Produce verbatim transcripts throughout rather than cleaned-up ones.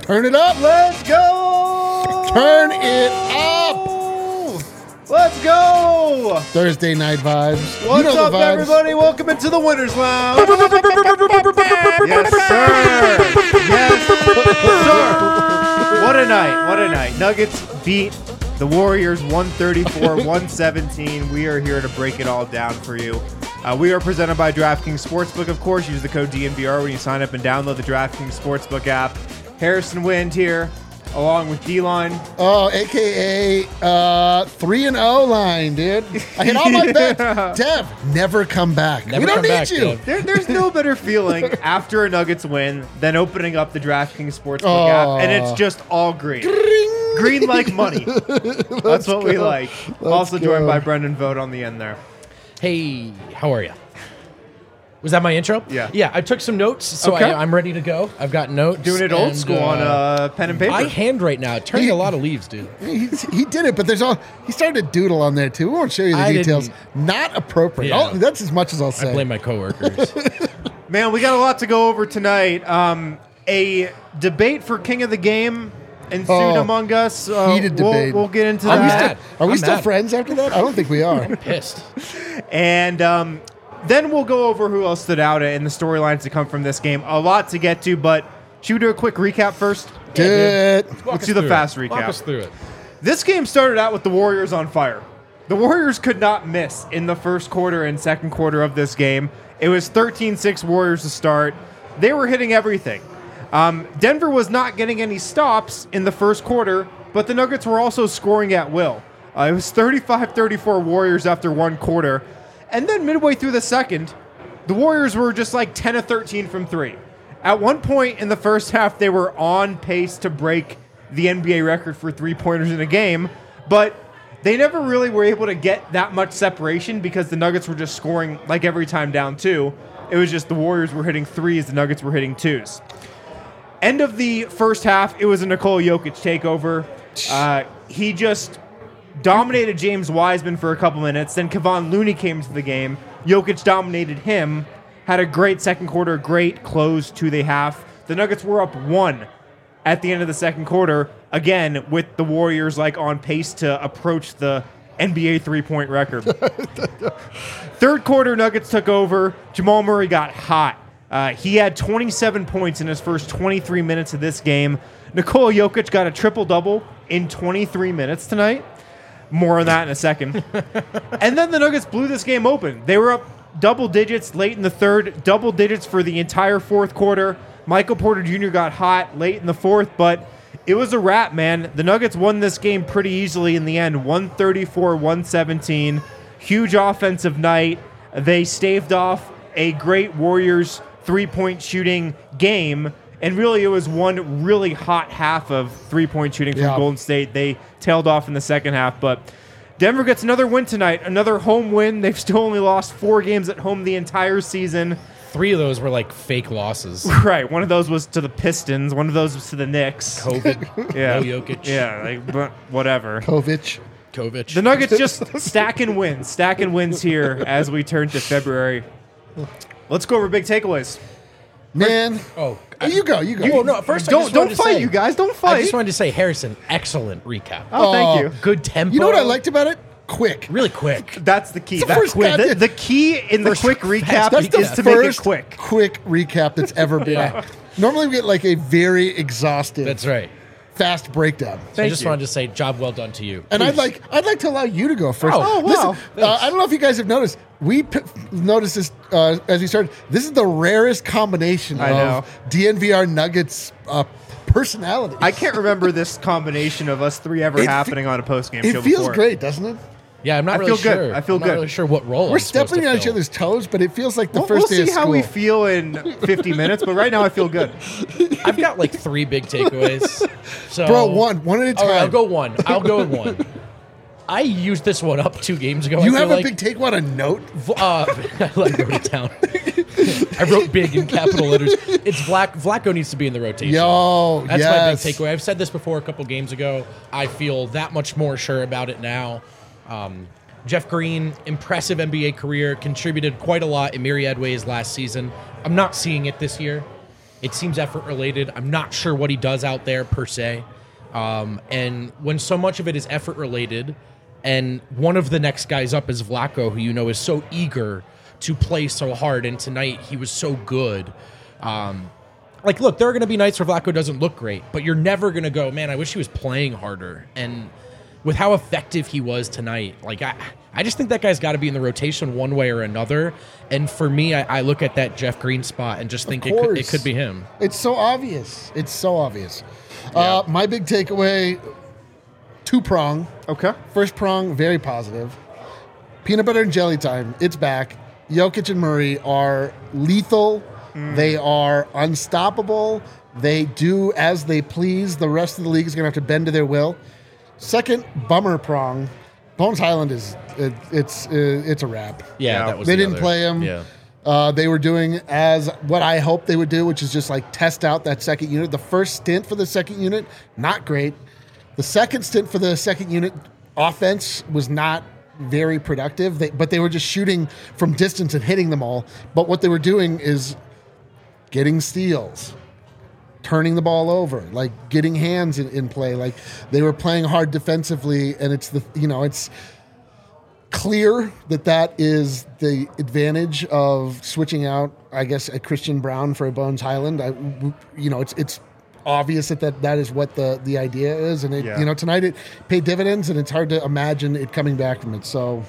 Turn it up. Let's go. Turn it up. Let's go. Thursday night vibes. What's you know up, the vibes. everybody? Welcome into the Winners Lounge. Yes, sir. Yes, sir. What a night. What a night. Nuggets beat the Warriors one thirty-four one seventeen. We are here to break it all down for you. Uh, we are presented by DraftKings Sportsbook. Of course, use the code D N V R when you sign up and download the DraftKings Sportsbook app. Harrison Wind here, along with D-Line. Oh, A K A uh, three and oh line, dude. I hit all my bets. Dev, never come back. Never we don't come need back, you. Dev. There, there's no better feeling after a Nuggets win than opening up the DraftKings Sportsbook Oh. app, and it's just all green. Green like money. That's what we go. like. Let's also joined go. by Brendan Vogt on the end there. Hey, how are you? Was that my intro? Yeah. Yeah, I took some notes, so Okay. I, I'm ready to go. I've got notes. Doing it old and, school on uh, pen and paper. I handwrite now, turning He- a lot of leaves, dude. He, he did it, but there's all he started to doodle on there too. We won't show you the I details. didn't- Not appropriate. Yeah. Oh, that's as much as I'll say. I blame my coworkers. Man, we got a lot to go over tonight. Um, a debate for King of the Game ensued Oh, among us. Uh, heated we'll, debate. we'll get into I'm that. mad. Are we I'm still mad. friends after that? I don't think we are. Pissed. And um, then we'll go over who else stood out in the storylines to come from this game. A lot to get to, but should we do a quick recap first? Good. Walk Let's us do the through fast it. Walk recap. us through it. This game started out with the Warriors on fire. The Warriors could not miss in the first quarter and second quarter of this game. It was thirteen six Warriors to start. They were hitting everything. Um, Denver was not getting any stops in the first quarter, but the Nuggets were also scoring at will. Uh, it was thirty-five thirty-four Warriors after one quarter. And then midway through the second, the Warriors were just like ten of thirteen from three. At one point in the first half, they were on pace to break the N B A record for three-pointers in a game, but they never really were able to get that much separation because the Nuggets were just scoring like every time down two. It was just the Warriors were hitting threes, the Nuggets were hitting twos. End of the first half, it was a Nikola Jokic takeover. Uh, he just dominated James Wiseman for a couple minutes. Then Kevon Looney came into the game. Jokic dominated him. Had a great second quarter, great close to the half. The Nuggets were up one at the end of the second quarter, again, with the Warriors like on pace to approach the N B A three-point record. Third quarter, Nuggets took over. Jamal Murray got hot. Uh, he had twenty-seven points in his first twenty-three minutes of this game. Nikola Jokic got a triple-double in twenty-three minutes tonight. More on that in a second. And then the Nuggets blew this game open. They were up double digits late in the third, double digits for the entire fourth quarter. Michael Porter Junior got hot late in the fourth, but it was a wrap, man. The Nuggets won this game pretty easily in the end, one thirty-four one seventeen. Huge offensive night. They staved off a great Warriors three-point shooting game, and really it was one really hot half of three-point shooting from Yeah. Golden State. They tailed off in the second half, but Denver gets another win tonight, another home win. They've still only lost four games at home the entire season. Three of those were like fake losses. Right, one of those was to the Pistons, one of those was to the Knicks. COVID. Yeah, No Jokic. Yeah, like but whatever. Kovic. Kovic. The Nuggets just stacking wins, stacking wins here as we turn to February. Let's go over big takeaways. Man. Oh, Oh, you go. You go. You, oh, no, first I Don't just don't wanted to fight, say- you guys. Don't I fight. just wanted to say, Harrison, excellent recap. oh, thank Oh. you. Good tempo. You know what I liked about it? Quick. Really quick. That's the key. It's the That's first quick. The, goddamn- the key in the First quick fast recap That's the is to first make it quick. quick recap that's ever been. Yeah. Normally we get like a very exhaustive, That's right. fast breakdown. So I Thank just you. wanted to say, job well done to you. And I'd like I'd like to allow you to go first. Oh, oh, wow. Listen, uh, I don't know if you guys have noticed. We p- noticed this uh, as we started. This is the rarest combination I know. of D N V R Nuggets uh, personality. I can't remember this combination of us three ever It fe- happening on a post game it show feels before. great, doesn't it? Yeah, I'm not I really feel good. sure. I feel I'm good. not really sure what role We're I'm supposed stepping to on each fill. other's toes, but it feels like the We'll, 1st we'll day see of how school. we feel in fifty minutes, but right now I feel good. I've got like three big takeaways. So, Bro, one, one at a time. All right, I'll go one. I'll go with one. I used this one up two games ago. You I have feel a like. big take one, a note? Uh, I like wrote it down. I wrote big in capital letters. It's Vlack. Vlaco needs to be in the rotation. Yo, That's yes. my big takeaway. I've said this before a couple games ago. I feel that much more sure about it now. Um, Jeff Green, impressive N B A career, contributed quite a lot in myriad ways last season. I'm not seeing it this year. It seems effort related. I'm not sure what he does out there per se. Um, and when so much of it is effort related, and one of the next guys up is Vlatko, who you know is so eager to play so hard, and tonight he was so good. Um, like, look, there are going to be nights where Vlatko doesn't look great, but you're never going to go, man, I wish he was playing harder. And with how effective he was tonight, like I, I just think that guy's got to be in the rotation one way or another. And for me, I, I look at that Jeff Green spot and just think it could, it could be him. It's so obvious. It's so obvious. Uh, my big takeaway, two prong. Okay. First prong, very positive. Peanut butter and jelly time. It's back. Jokic and Murray are lethal. Mm. They are unstoppable. They do as they please. The rest of the league is going to have to bend to their will. Second bummer prong. Bones Highland is it, it's it, it's a wrap. Yeah, that was they the didn't other. play him. Yeah. Uh, they were doing as what I hoped they would do, which is just like test out that second unit. The first stint for the second unit, not great. The second stint for the second unit offense was not very productive, they, but they were just shooting from distance and hitting them all. But what they were doing is getting steals, turning the ball over, like getting hands in, in play. Like they were playing hard defensively, and it's the you know it's clear that that is the advantage of switching out, I guess, a Christian Brown for a Bones Highland. I, you know, it's it's obvious that, that that is what the, the idea is, and it, yeah. you know tonight it paid dividends, and it's hard to imagine it coming back from it. So,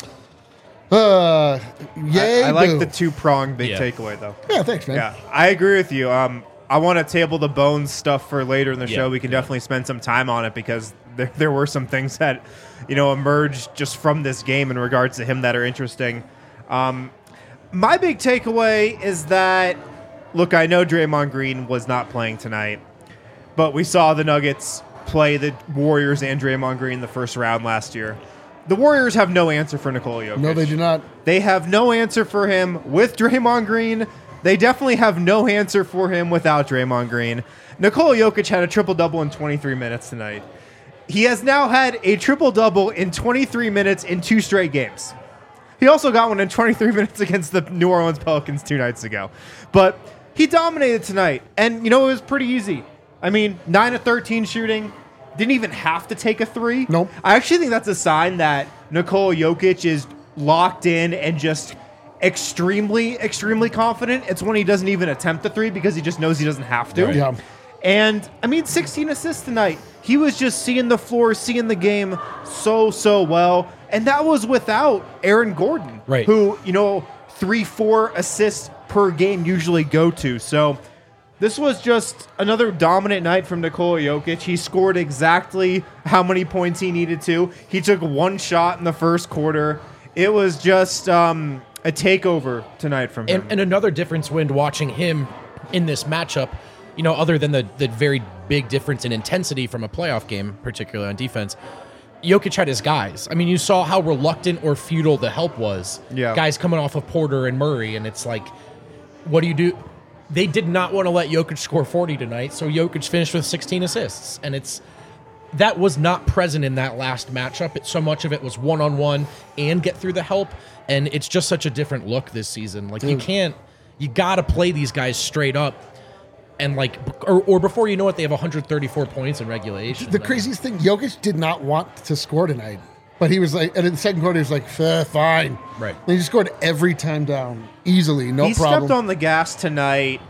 uh, yay! I, I like boo. the two prong big Yeah. takeaway though. Yeah, thanks, man. Yeah, I agree with you. Um, I want to table the Bones stuff for later in the Yeah. show. We can definitely spend some time on it because there there were some things that you know emerged just from this game in regards to him that are interesting. Um, my big takeaway is that look, I know Draymond Green was not playing tonight, but we saw the Nuggets play the Warriors and Draymond Green the first round last year. The Warriors have no answer for Nikola Jokic. No, they do not. They have no answer for him with Draymond Green. They definitely have no answer for him without Draymond Green. Nikola Jokic had a triple-double in twenty-three minutes tonight. He has now had a triple-double in twenty-three minutes in two straight games. He also got one in twenty-three minutes against the New Orleans Pelicans two nights ago. But he dominated tonight, and, you know, it was pretty easy. I mean, nine of thirteen shooting. Didn't even have to take a three. Nope. I actually think that's a sign that Nikola Jokic is locked in and just extremely, extremely confident. It's when he doesn't even attempt the three because he just knows he doesn't have to. Right. Yeah. And, I mean, sixteen assists tonight. He was just seeing the floor, seeing the game so, so well. And that was without Aaron Gordon, Right. who, you know, three, four assists per game usually go to. So this was just another dominant night from Nikola Jokic. He scored exactly how many points he needed to. He took one shot in the first quarter. It was just um, a takeover tonight from him. And, and another difference when watching him in this matchup, you know, other than the, the very big difference in intensity from a playoff game, particularly on defense, Jokic had his guys. I mean, you saw how reluctant or futile the help was. Yeah. Guys coming off of Porter and Murray, and it's like, what do you do? They did not want to let Jokic score forty tonight, so Jokic finished with sixteen assists. And it's that was not present in that last matchup. It, so much of it was one-on-one and get through the help, and it's just such a different look this season. Like, you can't, you got to play these guys straight up. And like, or, or before you know it, they have one hundred thirty-four points in regulation. The craziest thing, Jokic did not want to score tonight, but he was like, and in the second quarter, he was like, "Eh, fine. Right. And he just scored every time down, easily, no he problem. stepped on the gas tonight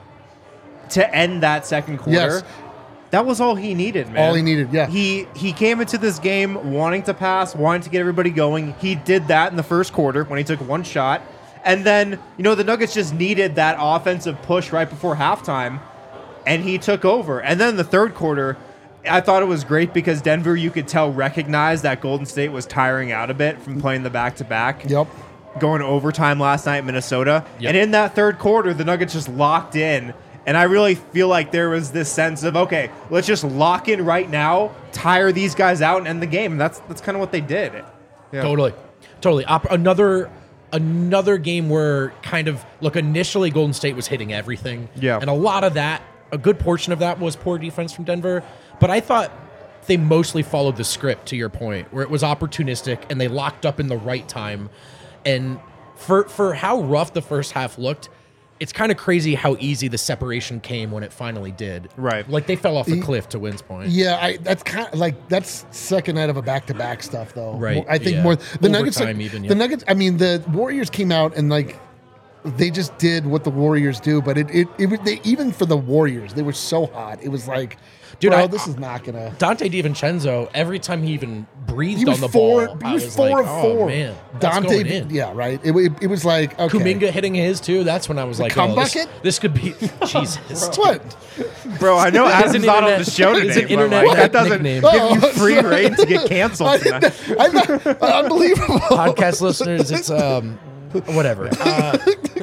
to end that second quarter. Yes. That was all he needed, man. All he needed, yeah. He he came into this game wanting to pass, wanting to get everybody going. He did that in the first quarter when he took one shot. And then, you know, the Nuggets just needed that offensive push right before halftime, and he took over. And then in the third quarter, I thought it was great because Denver, you could tell, recognized that Golden State was tiring out a bit from playing the back-to-back. Yep. Going to overtime last night in Minnesota. Yep. And in that third quarter, the Nuggets just locked in. And I really feel like there was this sense of, okay, let's just lock in right now, tire these guys out, and end the game. And that's that's kind of what they did. Yeah. Totally, totally. Op- another another game where kind of look initially Golden State was hitting everything. Yeah. And a lot of that, a good portion of that was poor defense from Denver. But I thought they mostly followed the script, to your point, where it was opportunistic and they locked up in the right time. And for for how rough the first half looked, it's kind of crazy how easy the separation came when it finally did. Right. Like they fell off a cliff to Wynn's point. Yeah, I, that's kind of like that's second night of a back-to-back stuff, though. Right, I think yeah. more the Nuggets. Like, Overtime even, yeah. The Nuggets. I mean, the Warriors came out and like they just did what the Warriors do, but it it, it was- they, even for the Warriors, they were so hot. It was like, Dude, bro, I- this is not gonna. Dante DiVincenzo, every time he even breathed He was on the four. ball, He I was, was four like, of oh, four. man, that's Dante, going in. yeah, right. It, it, it was like okay. Kuminga hitting his too. That's when I was like, cum oh, this, bucket? this could be Jesus. What? Bro, I know It's Adam's an not on internet- the show it's today. an but, internet like, that doesn't nickname. give Oh, you free sorry. reign to get canceled I tonight. didn't- I'm not, unbelievable. Podcast listeners, it's um, whatever. Uh,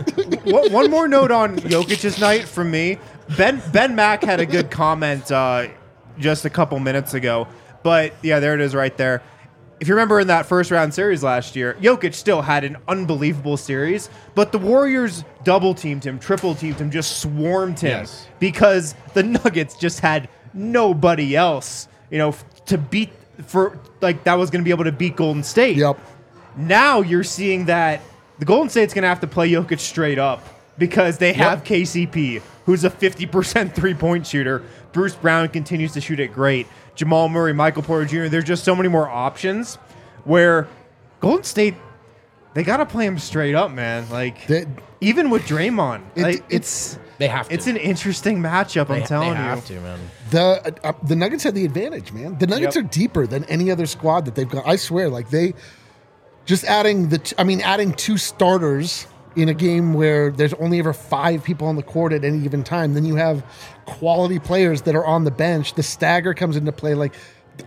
One one more note on Jokic's night from me. Ben Ben Mack had a good comment uh, just a couple minutes ago, but yeah, there it is right there. If you remember in that first round series last year, Jokic still had an unbelievable series, but the Warriors double teamed him, triple teamed him, just swarmed him Yes. because the Nuggets just had nobody else, you know, f- to beat for like that was going to be able to beat Golden State. Yep. Now you're seeing that the Golden State's going to have to play Jokic straight up because they have K C P, who's a fifty percent three-point shooter. Bruce Brown continues to shoot it great. Jamal Murray, Michael Porter Junior There's just so many more options where Golden State, they got to play him straight up, man. Like, They- even with Draymond, It- like, it's they have to. it's an interesting matchup, I'm they, telling they you. have to, man. The uh, the Nuggets had the advantage, man. The Nuggets Yep. are deeper than any other squad that they've got. I swear, like they just adding the. T- I mean, adding two starters in a game where there's only ever five people on the court at any given time. Then you have quality players that are on the bench. The stagger comes into play. Like,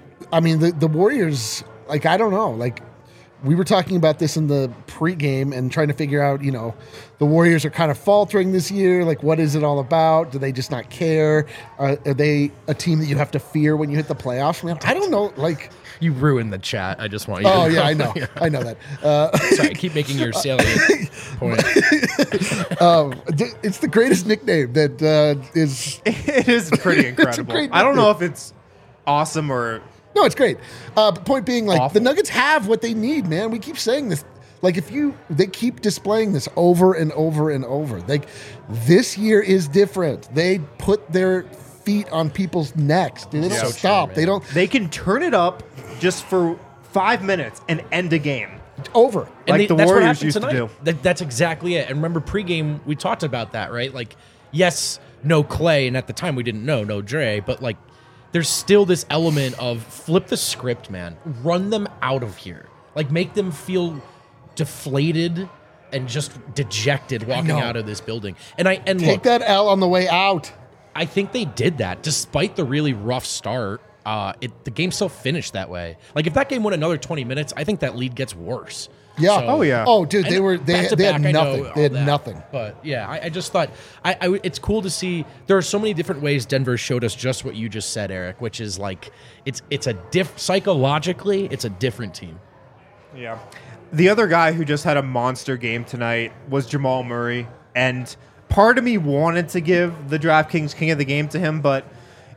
I mean, the the Warriors. Like, I don't know. Like, we were talking about this in the pregame and trying to figure out, you know, the Warriors are kind of faltering this year. Like, what is it all about? Do they just not care? Uh, are they a team that you have to fear when you hit the playoffs? Man, I don't know. Like, You ruined the chat. I just want you. oh to yeah, I know, I know that. Uh, Sorry, keep making your salient point. um, th- it's the greatest nickname that uh, is. It is pretty incredible. great I don't know if it's awesome or No, it's great. Uh, but point being, like, Awful. the Nuggets have what they need, man. We keep saying this. Like, if you, they keep displaying this over and over and over. Like, this year is different. They put their feet on people's necks. They don't So true, stop. man. they don't they can turn it up just for five minutes and end a game. over. And Like the that's what Warriors happened used to tonight. do. That, that's exactly it. And remember, pregame we talked about that, right? Like, yes, no Clay, and at the time we didn't know no Dre, but like, there's still this element of flip the script, man. Run them out of here. Like, make them feel deflated and just dejected walking know. out of this building. And I and Take look, that L on the way out. I think they did that despite the really rough start. Uh, it the game still finished that way. Like, if that game went another twenty minutes, I think that lead gets worse. Yeah. So- Oh, yeah. Oh, dude, they and were they, back to they had back, I know nothing. all They had that. nothing. But yeah, I, I just thought I, I it's cool to see. There are so many different ways Denver showed us just what you just said, Eric, which is like it's it's a diff psychologically it's a different team. Yeah. The other guy who just had a monster game tonight was Jamal Murray. And part of me wanted to give the DraftKings King of the Game to him, but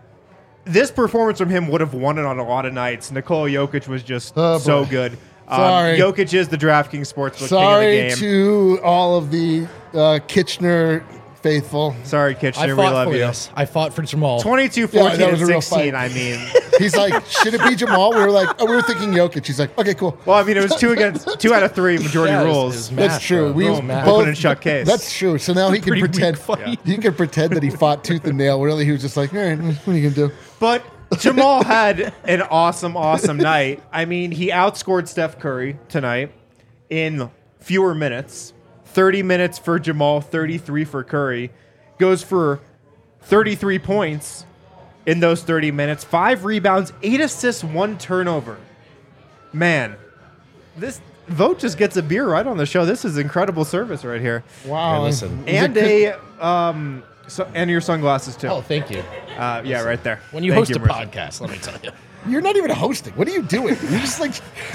this performance from him would have won it on a lot of nights. Nikola Jokic was just Oh, so boy. good. Um, Sorry. Jokic is the DraftKings Sportsbook King of Sorry the Game. to all of the uh, Kitchener faithful. Sorry, I Kitchener, we fought love for you. this. I fought for Jamal. twenty-two, Yeah, fourteen, that was and a real sixteen, fight. I mean. He's like, should it be Jamal? We were like, oh, we were thinking Jokic. He's like, okay, cool. Well, I mean, it was two against two out of three majority Yeah, it was- rules. it was That's math, true. bro. We It was both, math. Open and shut case. That's true. So now he can Pretty weak pretend. fight. He can pretend that he fought tooth and nail. Really, he was just like, all right, what are you gonna do? But Jamal had an awesome, awesome night. I mean, he outscored Steph Curry tonight in fewer minutes. thirty minutes for Jamal, thirty-three for Curry. Goes for thirty-three points in those thirty minutes. Five rebounds, eight assists, one turnover. Man, this Vote just gets a beer right on the show. This is incredible service right here. Wow. Hey, listen. And a um, so, and your sunglasses too. Oh, thank you. Uh, yeah, right there. When you Thank host a Marissa. podcast, let me tell you. You're not even hosting. What are you doing? You just like.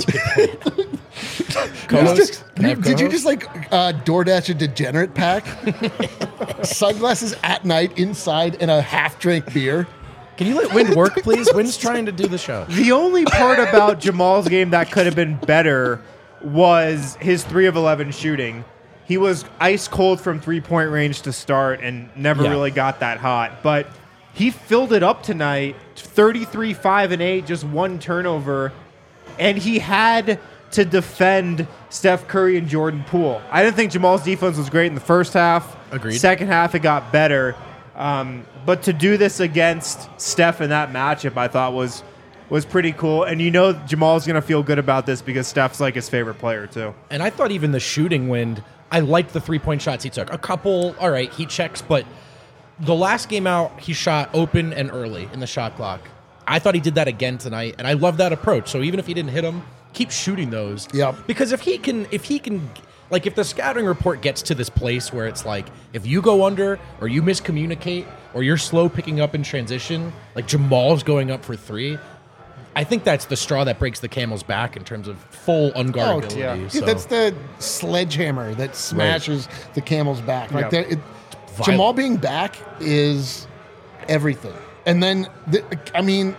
Co-host? Just- Can I you- have did you co-host? just like uh, DoorDash a degenerate pack? Sunglasses at night inside and a half drink beer. Can you let Win work, please? Win's trying to do the show. The only part about Jamal's game that could have been better was his three of eleven shooting. he was ice cold from three-point range to start and never Yeah. really got that hot. But he filled it up tonight, thirty-three, five, and eight, just one turnover. And he had to defend Steph Curry and Jordan Poole. I didn't think Jamal's defense was great in the first half. Agreed. Second half, it got better. Um, but to do this against Steph in that matchup, I thought was was pretty cool. And you know Jamal's going to feel good about this because Steph's like his favorite player, too. And I thought even the shooting wind, I liked the three-point shots he took. A couple, all right, he checks, but the last game out, he shot open and early in the shot clock. I thought he did that again tonight, and I love that approach. So even if he didn't hit him, keep shooting those. Yep. Because if he can, if he can, like if the scouting report gets to this place where it's like, if you go under or you miscommunicate or you're slow picking up in transition, like Jamal's going up for three, I think that's the straw that breaks the camel's back in terms of full unguardability. yeah. Dude, So, that's the sledgehammer that smashes the camel's back. Like Yep. that, it, Violent. Jamal being back is everything. And then, the, I mean,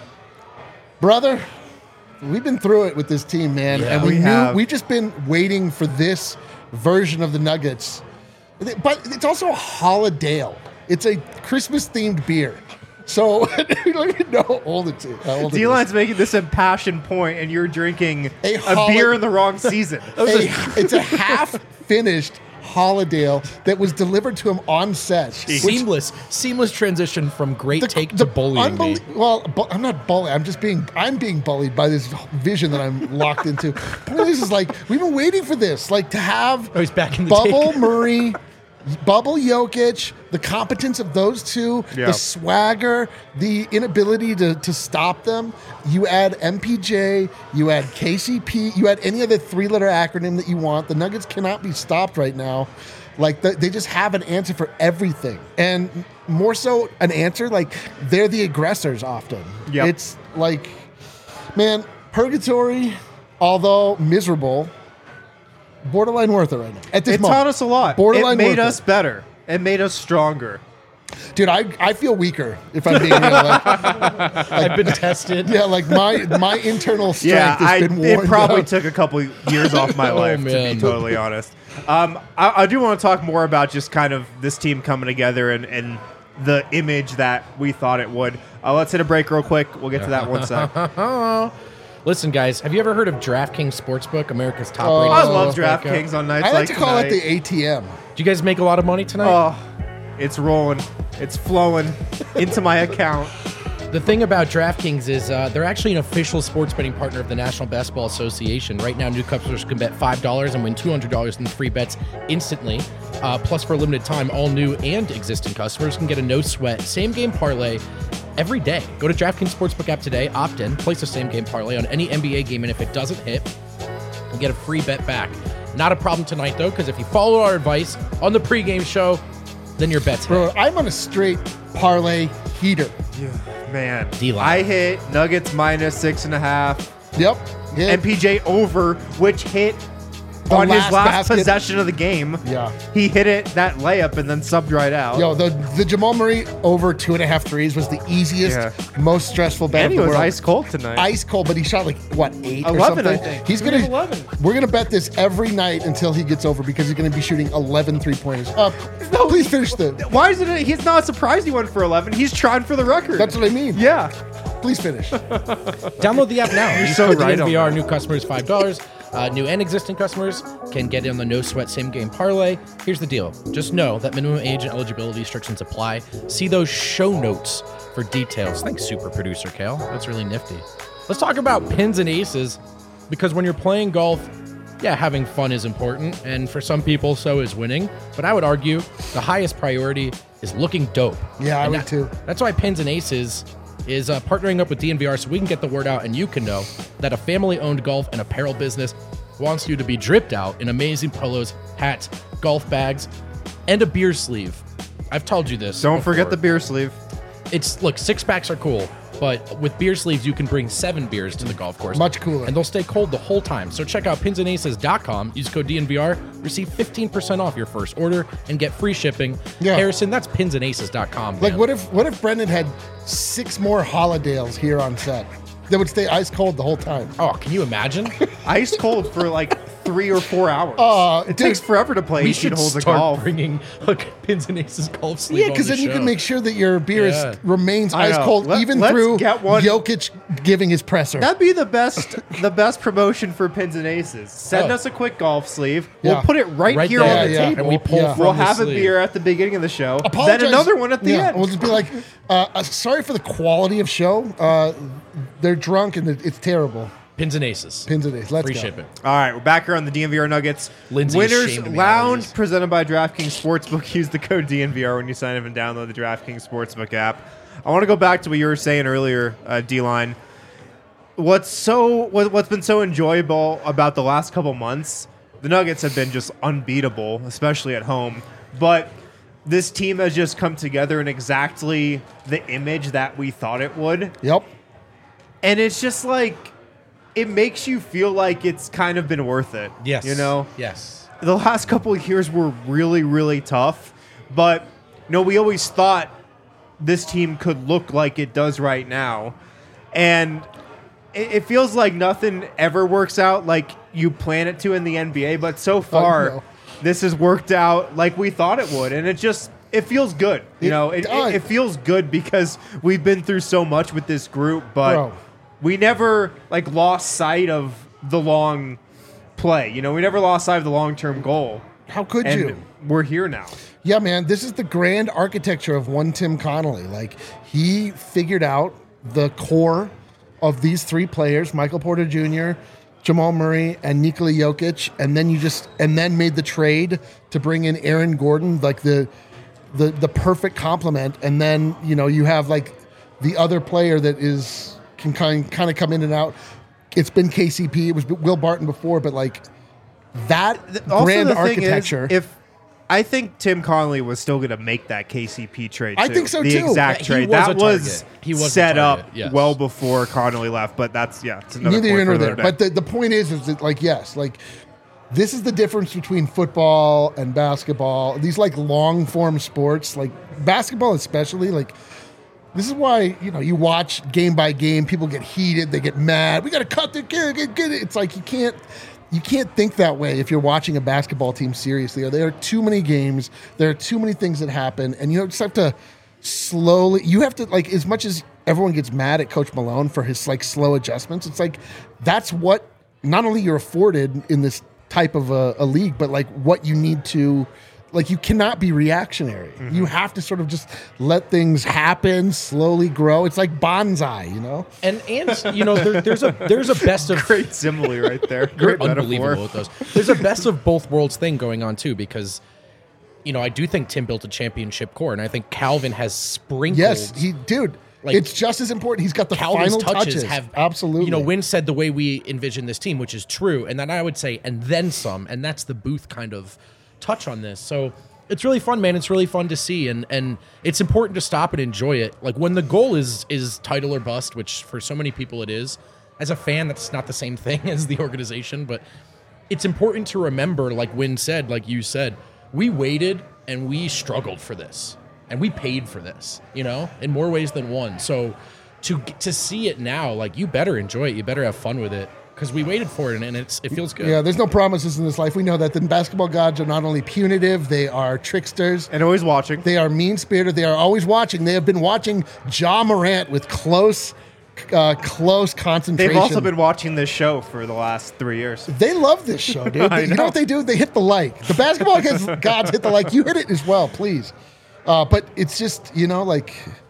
brother, we've been through it with this team, man. Yeah, and we, we knew have. we've just been waiting for this version of the Nuggets. But it's also a holiday. It's a Christmas themed beer. So I don't even know how old it is. How old it is. D-Line's making this impassioned point, and you're drinking A a, holi- beer in the wrong season. A- it's a half finished Holiday that was delivered to him on set. which- seamless, seamless transition from great the- take the to bullying me. unbelie- Well, bu- I'm not bullying. I'm just being. I'm being bullied by this vision that I'm locked into. Point is, is like we've been waiting for this, like to have Oh, he's back in the Bubble take. Murray, Bubble Jokic, the competence of those two, Yeah. the swagger, the inability to, to stop them. You add M P J, you add K C P, you add any other three-letter acronym that you want. The Nuggets cannot be stopped right now. Like the, they just have an answer for everything, and more so an answer like they're the aggressors often. Yep. It's like, man, purgatory, although miserable, borderline worth it right now. At this It moment, taught us a lot. Borderline It made worth us better. It made us stronger. Dude, I, I feel weaker if I'm being real. Like, I've been tested. yeah, like my my internal strength Yeah, has I, been it worn probably down. took a couple years off my Oh, life, to man. be totally honest. Um, I, I do want to talk more about just kind of this team coming together and, and the image that we thought it would. Uh, let's hit a break real quick. We'll get to that one sec. Listen, guys, have you ever heard of DraftKings Sportsbook, America's top Oh, rated? I love sportsbook? DraftKings on nights I like like to call tonight. it the A T M. Do you guys make a lot of money tonight? Oh, it's rolling. It's flowing into my account. The thing about DraftKings is uh, they're actually an official sports betting partner of the National Basketball Association. Right now, new customers can bet five dollars and win two hundred dollars in free bets instantly. Uh, plus, for a limited time, all new and existing customers can get a no-sweat same-game parlay every day. Go to DraftKings Sportsbook app today, opt in, place a same-game parlay on any N B A game, and if it doesn't hit, you'll get a free bet back. Not a problem tonight, though, because if you follow our advice on the pregame show, then your bet's hit. Bro, I'm on a straight parlay heater. Man, D-line. I hit Nuggets minus six and a half. Yep. Yeah. M P J over, which hit The on his last last basket. possession of the game. Yeah. He hit it, that layup, and then subbed right out. Yo, the the Jamal Murray over two and a half threes was the easiest, Yeah. most stressful bet and of he the was world. ice cold tonight. Ice cold, but he shot like what eight or eleven, something. I think. He's He gonna was eleven. We're gonna bet this every night until he gets over because he's gonna be shooting eleven three pointers. Uh, no, please finish the. Why is it? He's not surprised he went for eleven. He's trying for the record. That's what I mean. yeah. Please finish. Download the app now. Use so code right on D N V R. that. New customers five dollars. Uh, new and existing customers can get in the no sweat same game parlay. Here's the deal. Just know that minimum age and eligibility restrictions apply. See those show notes for details. Thanks, super producer Kale. That's really nifty. Let's talk about pins and aces, because when you're playing golf, yeah, having fun is important, and for some people, so is winning. But I would argue the highest priority is looking dope. Yeah, I And would that- too. That's why Pins and Aces is uh, partnering up with D N V R so we can get the word out and you can know that a family-owned golf and apparel business wants you to be dripped out in amazing polos, hats, golf bags, and a beer sleeve. I've told you this. Don't forget the before. beer sleeve. It's look, six packs are cool, but with beer sleeves you can bring seven beers to the golf course. Much cooler. And they'll stay cold the whole time. So check out pins and aces dot com, use code D N V R, receive fifteen percent off your first order, and get free shipping. Yeah. Harrison, that's pins and aces dot com. Like, man. what if what if Brendan had six more Holidays here on set that would stay ice cold the whole time? Oh, can you imagine? Ice cold for like three or four hours. Uh, it dude, takes forever to play We eighteen should holes of start golf. bringing like pins and aces golf sleeve. Yeah, on because the then you show. can make sure that your beer Yeah. is, remains I ice know. cold, Let- even let's through get one- Jokic giving his presser. That'd be the best, the best promotion for pins and aces. Send Oh. us a quick golf sleeve. We'll Yeah. put it right, Right here there, on the yeah. table. And we pull Yeah. from We'll the have a sleeve. beer at the beginning of the show, Apologize. then another one at the yeah, end. We'll just be like, uh, uh, sorry for the quality of show. Uh, they're drunk and it- it's terrible. Pins and aces. Pins and aces. Let's Free go. shipping. All right, we're back here on the D N V R Nuggets. Lindsay is Winners ashamed of me Lounge nowadays. presented by DraftKings Sportsbook. Use the code D N V R when you sign up and download the DraftKings Sportsbook app. I want to go back to what you were saying earlier, uh, D-Line. What's so what, what's been so enjoyable about the last couple months? The Nuggets have been just unbeatable, especially at home. But this team has just come together in exactly the image that we thought it would. Yep. And it's just like, it makes you feel like it's kind of been worth it. Yes. You know? Yes. The last couple of years were really, really tough. But, you know, we always thought this team could look like it does right now. And it, it feels like nothing ever works out like you plan it to in the N B A. But so far, no. this has worked out like we thought it would. And it just, it feels good. You It know, it, does. it, it feels good because we've been through so much with this group. But Bro. we never like lost sight of the long play. You know, we never lost sight of the long-term goal. How could And you? we're here now. Yeah, man, this is the grand architecture of one Tim Connolly. Like, he figured out the core of these three players, Michael Porter Junior, Jamal Murray, and Nikola Jokic, and then you just and then made the trade to bring in Aaron Gordon, like the the the perfect complement. And then, you know, you have like the other player that is can kind kind of come in and out. It's been K C P, it was Will Barton before, but like that Also, grand the thing is, architecture. if I think Tim Connolly was still going to make that K C P trade. I too. think so, the too. exact He trade was a that was target. He was a set target, up yes. well before Connolly left. But that's yeah, it's another Neither point here nor for there. another day. But the, the point is, is that like, yes, like this is the difference between football and basketball. These like long form sports, like basketball especially, like this is why, you know, you watch game by game, people get heated, they get mad. We got to cut the get, get, get it. It's like you can't you can't think that way if you're watching a basketball team seriously. There are too many games, there are too many things that happen, and you just have to slowly you have to like as much as everyone gets mad at Coach Malone for his like slow adjustments, it's like that's what not only you're afforded in this type of a, a league, but like what you need to like you cannot be reactionary. Mm-hmm. You have to sort of just let things happen, slowly grow. It's like bonsai, you know? And and you know there, there's a there's a best of Great simile right there. You're Great unbelievable metaphor. with those. There's a best of both worlds thing going on too, because you know I do think Tim built a championship core, and I think Calvin has sprinkled. Yes, he dude. Like, it's just as important. He's got the Calvin's final touches, touches. have Absolutely. You know, Wynn said the way we envision this team, which is true, and then I would say, and then some, and that's the Booth kind of touch on this. So it's really fun, man. It's really fun to see, and and it's important to stop and enjoy it. Like when the goal is is title or bust, which for so many people it is. As a fan, that's not the same thing as the organization, but it's important to remember, like Wynn said, like you said, we waited and we struggled for this. And we paid for this, you know, in more ways than one. So to to see it now, like you better enjoy it. You better have fun with it because we waited for it, and, and it's it feels good. Yeah, there's no promises in this life. We know that the basketball gods are not only punitive, they are tricksters. And always watching. They are mean-spirited. They are always watching. They have been watching Ja Morant with close, uh, close concentration. They've also been watching this show for the last three years. They love this show, dude. I You know know. what they do? They hit the like. The basketball gods hit the like. You hit it as well, please. Uh, but it's just, you know, like,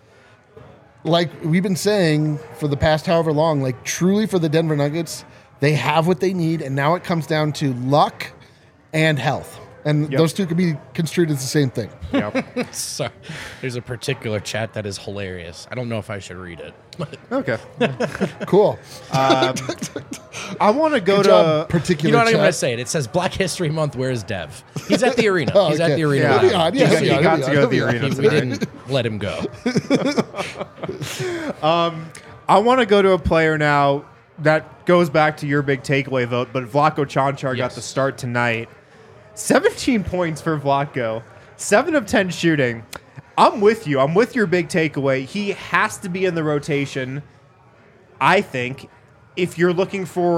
like we've been saying for the past however long, like truly for the Denver Nuggets, they have what they need, and now it comes down to luck and health. And Yep. those two can be construed as the same thing. Yep. So, there's a particular chat that is hilarious. I don't know if I should read it. Okay. Cool. I want to go Good to. job, particular You know what I'm chat. going to say it. It says Black History Month. Where's Dev? He's at the arena. Oh, He's at okay. the arena. Yeah. He'll be on. Yeah, He he'll be got- on, he got he'll to be go on, to the he'll be arena on. We, we didn't let him go. I want to go to a player now that goes back to your big takeaway vote, but Vlatko Čančar got Yes. the start tonight. seventeen points for Vlatko, seven of ten shooting. I'm with you. I'm with your big takeaway. He has to be in the rotation, I think, if you're looking for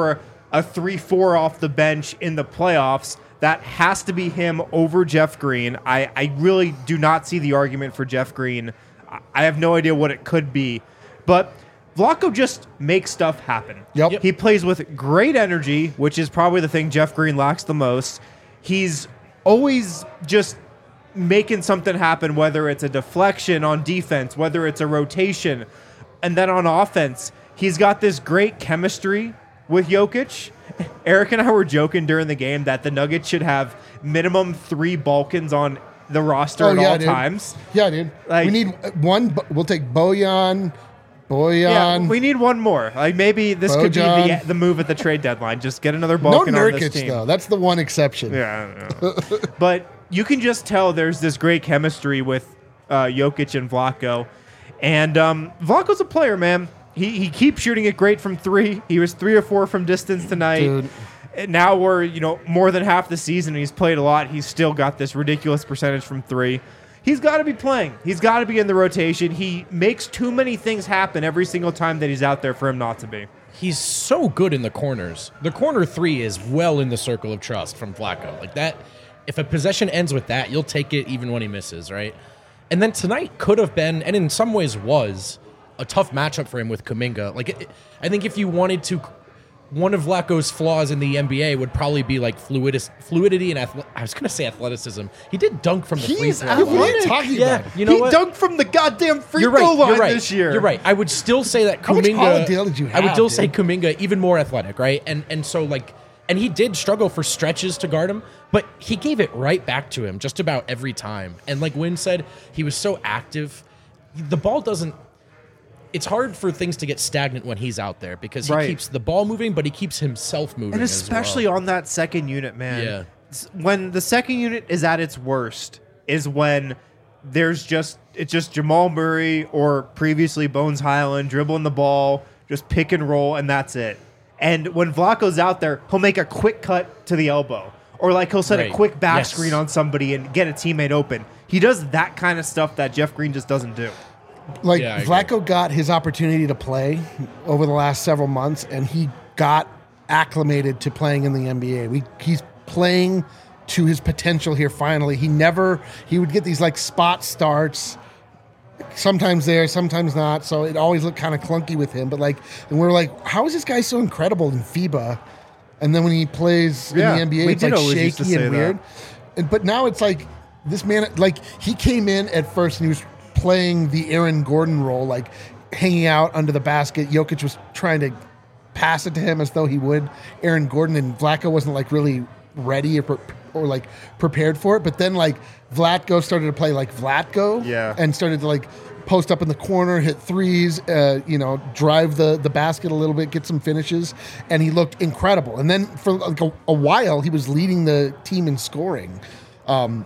a three four off the bench in the playoffs, that has to be him over Jeff Green. I, I really do not see the argument for Jeff Green. I have no idea what it could be. But Vlatko just makes stuff happen. Yep. Yep. He plays with great energy, which is probably the thing Jeff Green lacks the most. He's always just making something happen, whether it's a deflection on defense, whether it's a rotation. And then on offense, he's got this great chemistry with Jokic. Eric and I were joking during the game that the Nuggets should have minimum three Balkans on the roster Oh, at yeah, all dude. times. Yeah, dude. Like- we need one. We'll take Bojan, Bojan. Yeah, we need one more. Like maybe this could be Bojan. the, the move at the trade deadline. Just get another no Balkan on this Nurkic, team. though. That's the one exception. Yeah, I don't know. But you can just tell there's this great chemistry with uh, Jokic and Vlatko. And um, Vlatko's a player, man. He he keeps shooting it great from three. He was three or four from distance tonight. Dude. And now we're, you know, more than half the season. He's played a lot. He's still got this ridiculous percentage from three. He's got to be playing. He's got to be in the rotation. He makes too many things happen every single time that he's out there for him not to be. He's so good in the corners. The corner three is well in the circle of trust from Vlatko. Like that, if a possession ends with that, you'll take it even when he misses, right? And then tonight could have been, and in some ways was, a tough matchup for him with Kuminga. Like, it, I think if you wanted to, one of Vlatko's flaws in the N B A would probably be like fluidis, fluidity and athle- I was going to say athleticism. He did dunk from the free He's throw. What are you talking Yeah, about? you know he what? dunked from the goddamn free You're throw right. line You're right. this year. You're right. I would still say that How much Kuminga. Holiday did you I would have, still say dude? Kuminga even more athletic, right? And and so like, and he did struggle for stretches to guard him, but he gave it right back to him just about every time. And like Wynn said, he was so active. The ball doesn't. It's hard for things to get stagnant when he's out there because he Right. keeps the ball moving, but he keeps himself moving. And as especially well. on that second unit, man. Yeah. S- When the second unit is at its worst is when there's just it's just Jamal Murray or previously Bones Highland dribbling the ball, just pick and roll, and that's it. And when Vlatko's out there, he'll make a quick cut to the elbow. Or like he'll set Right. a quick back Yes. screen on somebody and get a teammate open. He does that kind of stuff that Jeff Green just doesn't do. Like Yeah, I agree. Vlatko got his opportunity to play over the last several months, and he got acclimated to playing in the N B A. We, he's playing to his potential here. Finally, he never he would get these like spot starts, sometimes there, sometimes not. So it always looked kind of clunky with him. But like, and we're like, how is this guy so incredible in FIBA? And then when he plays Yeah, in the N B A, we it's did like always used to shaky say and that. weird. And, but now it's like this man, like he came in at first and he was playing the Aaron Gordon role, like hanging out under the basket. Jokic was trying to pass it to him as though he would Aaron Gordon, and Vlatko wasn't like really ready or, pre- or like prepared for it. But then like Vlatko started to play like Vlatko, Yeah. and started to like post up in the corner, hit threes, uh, you know, drive the, the basket a little bit, get some finishes, and he looked incredible. And then for like a, a while, he was leading the team in scoring. Um,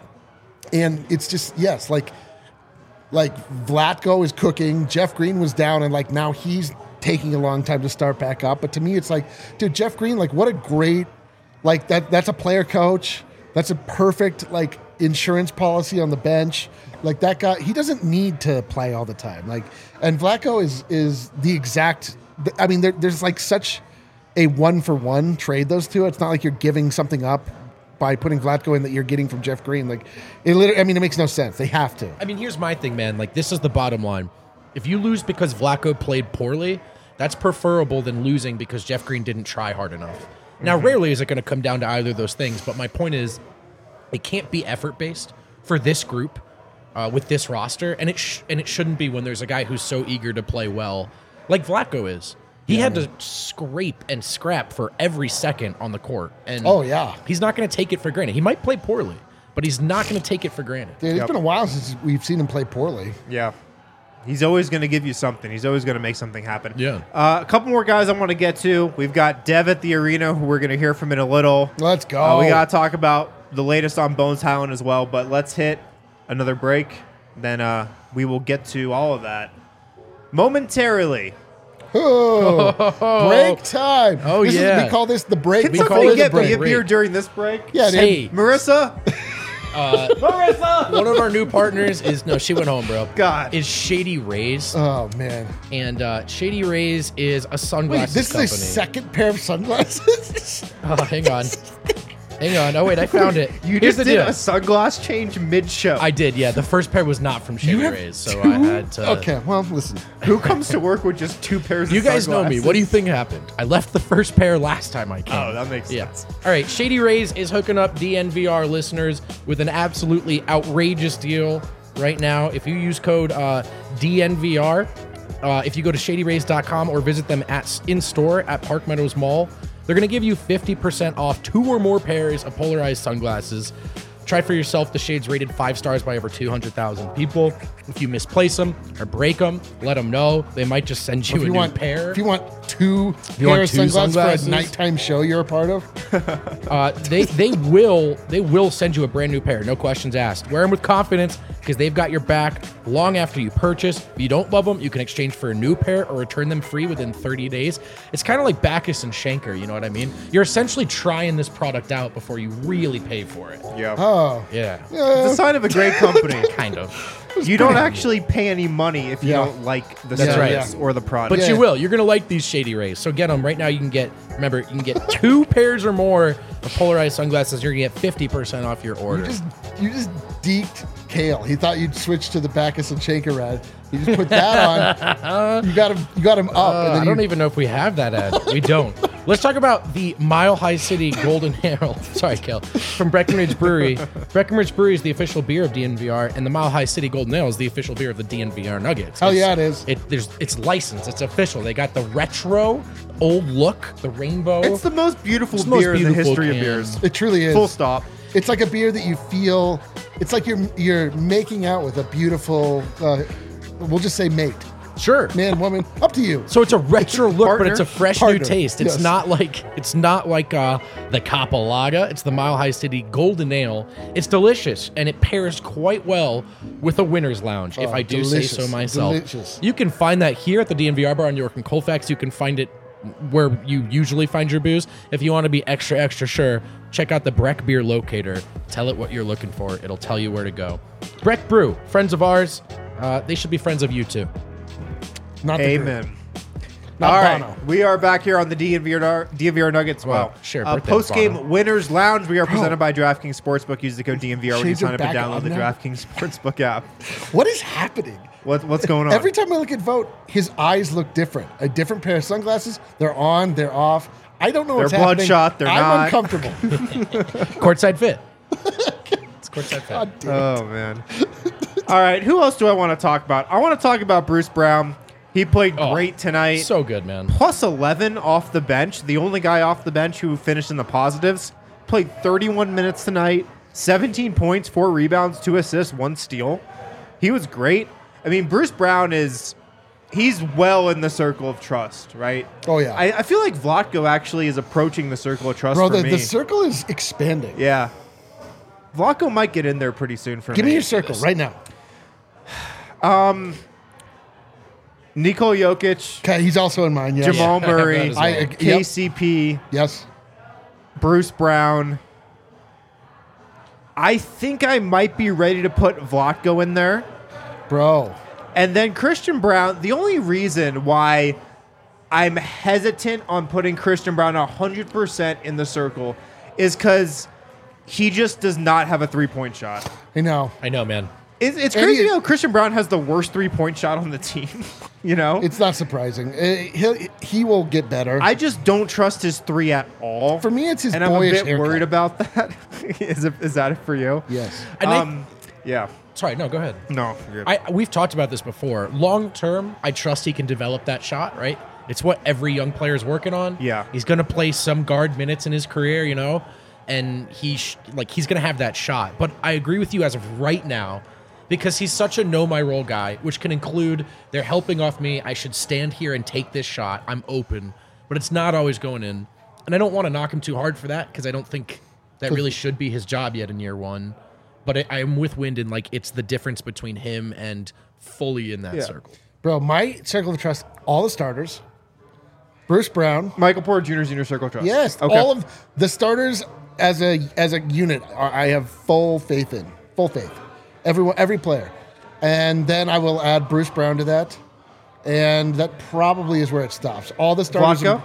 and it's just, yes, like, like Vlatko is cooking, Jeff Green was down, and like now he's taking a long time to start back up. But to me, it's like, dude, Jeff Green, like what a great, like that, that's a player coach. That's a perfect like insurance policy on the bench. Like that guy, he doesn't need to play all the time. Like, and Vlatko is is the exact. I mean, there, there's like such a one for one trade those two. It's not like you're giving something up by putting Vlatko in that you're getting from Jeff Green. Like, it literally. I mean, it makes no sense. They have to. I mean, here's my thing, man. Like, this is the bottom line. If you lose because Vlatko played poorly, that's preferable than losing because Jeff Green didn't try hard enough. Now, rarely is it going to come down to either of those things, but my point is, it can't be effort-based for this group uh, with this roster, and it sh- and it shouldn't be when there's a guy who's so eager to play well, like Vlatko is. He had to scrape and scrap for every second on the court, and Oh, yeah. he's not going to take it for granted. He might play poorly, but he's not going to take it for granted. Dude, it's Yep. been a while since we've seen him play poorly. Yeah. He's always going to give you something. He's always going to make something happen. Yeah. Uh, a couple more guys I want to get to. We've got Dev at the arena, who we're going to hear from in a little. Let's go. Uh, we got to talk about the latest on Bones Highland as well, but let's hit another break. Then uh, we will get to all of that momentarily. Oh, break time. Oh, This is- yeah. we call this the break. Can We before call somebody it the get me break. a beer during this break? Yeah, dude. Hey, Marissa? Uh, Marissa! one of our new partners is no, she went home, bro. God. Is Shady Rays, Oh man. and uh, Shady Rays is a Wait, sunglasses this is company. a second pair of sunglasses. Oh, hang on, hang on. Oh wait, I found it. You Here's just the did deal. a sunglass change mid-show. I did, yeah. The first pair was not from Shady have Rays, so two? I had to. Okay, well, listen. Who comes to work with just two pairs You of guys know sunglasses? me. What do you think happened? I left the first pair last time I came. Oh, that makes Yeah. sense. All right, Shady Rays is hooking up D N V R listeners with an absolutely outrageous deal right now. If you use code uh, D N V R, uh, if you go to shady rays dot com or visit them at in store at Park Meadows Mall, they're going to give you fifty percent off two or more pairs of polarized sunglasses. Try for yourself the shades rated five stars by over two hundred thousand people. If you misplace them or break them, let them know. They might just send you If a you new want pair. If you want two you pair want of two sunglasses, sunglasses? for a nighttime show you're a part of, Uh, they they will they will send you a brand new pair, no questions asked. Wear them with confidence because they've got your back long after you purchase. If you don't love them, you can exchange for a new pair or return them free within thirty days. It's kind of like Bacchus and Schenker, you know what I mean? You're essentially trying this product out before you really pay for it. Yeah. oh, Yeah, It's a sign of a great company. kind of. You don't actually pay any money if you Yeah. don't like the That's right. service or the product. But Yeah. you will. You're gonna like these Shady Rays. So get them right now. You can get. Remember, you can get two pairs or more of polarized sunglasses. You're gonna get fifty percent off your order. you just you just deked Kale. He thought you'd switch to the Bacchus and Shaker ad. You just put that on. You got him. You got him up. Uh, and then I don't you, even know if we have that ad. We don't. Let's talk about the Mile High City Golden Ale. Sorry, Kel. From Breckenridge Brewery. Breckenridge Brewery is the official beer of D N V R, and the Mile High City Golden Ale is the official beer of the D N V R Nuggets. Hell It's- yeah, it is. It there's it's licensed. It's official. They got the retro old look, the rainbow. it's the most beautiful It's the most beer in the beautiful history can. of beers. It truly is. Full stop. It's like a beer that you feel. It's like you're you're making out with a beautiful. Uh, we'll just say mate, sure. man, woman. Up to you. So it's a retro look, but Partner? it's a fresh Partner, new taste. It's yes. not like it's not like uh, the Capolaga. It's the Mile High City Golden Ale. It's delicious and it pairs quite well with a winner's lounge, if Oh, I do delicious, say so myself. delicious. You can find that here at the D N V R bar on York and Colfax. You can find it where you usually find your booze. If you want to be extra extra sure, check out the Breck Beer Locator. Tell it what you're looking for. It'll tell you where to go. Breck Brew, friends of ours. Uh, they should be friends of you too. Not the group. Amen. Not All right, Bono. we are back here on the D N V R, D N V R Nuggets. Well, Wow. sure, Uh, birthday, Post game Bono. winners lounge. We are presented by DraftKings Sportsbook. Use the code D N V R when you Shades are sign up and back download on the now? DraftKings Sportsbook app. What is happening? What, what's going on? Every time I look at Vote, his eyes look different. A different pair of sunglasses. They're on. They're off. I don't know what's They're happening. bloodshot, they're I'm not. uncomfortable. Courtside fit. It's courtside fit. God damn it. Oh man. All right, who else do I want to talk about? I want to talk about Bruce Brown. He played Oh, great tonight. So good, man. Plus eleven off the bench. The only guy off the bench who finished in the positives. Played thirty-one minutes tonight. seventeen points, four rebounds, two assists, one steal. He was great. I mean, Bruce Brown is he's well in the circle of trust, right? Oh, yeah. I, I feel like Vlatko actually is approaching the circle of trust Bro, for the, me. the circle is expanding. Yeah. Vlatko might get in there pretty soon for Give me. me your circle right now. Nikola Jokic, Okay, he's also in mine. Yes. Jamal Yeah, I have that Murray, as well. I, uh, K C P, Yes. Bruce Brown. I think I might be ready to put Vlatko in there. Bro. And then Christian Brown, the only reason why I'm hesitant on putting Christian Brown one hundred percent in the circle is because he just does not have a three-point shot. I know. I know, man. It's, it's And crazy he- how Christian Brown has the worst three-point shot on the team. You know? It's not surprising. Uh, He'll, he will get better. I just don't trust his three at all. For me, it's his and I'm a boyish bit haircut. worried about that. is, it, is that it for you? Yes. And I- Um, yeah. Sorry, no, go ahead. No. you're good. I we've talked about this before. Long term, I trust he can develop that shot, right? It's what every young player is working on. Yeah. He's going to play some guard minutes in his career, you know, and he sh- like he's going to have that shot. But I agree with you as of right now because he's such a know my role guy, which can include they're helping off me. I should stand here and take this shot. I'm open, but it's not always going in. And I don't want to knock him too hard for that because I don't think that really should be his job yet in year one. But I, I'm with Wyndon. Like, it's the difference between him and fully in that Yeah. circle. Bro, my circle of trust, all the starters. Bruce Brown. Michael Porter Junior's in your circle of trust. Yes. Okay. All of the starters as a as a unit, I have full faith in full faith. Everyone, every player, and then I will add Bruce Brown to that, and that probably is where it stops. All the starters. Vlatko?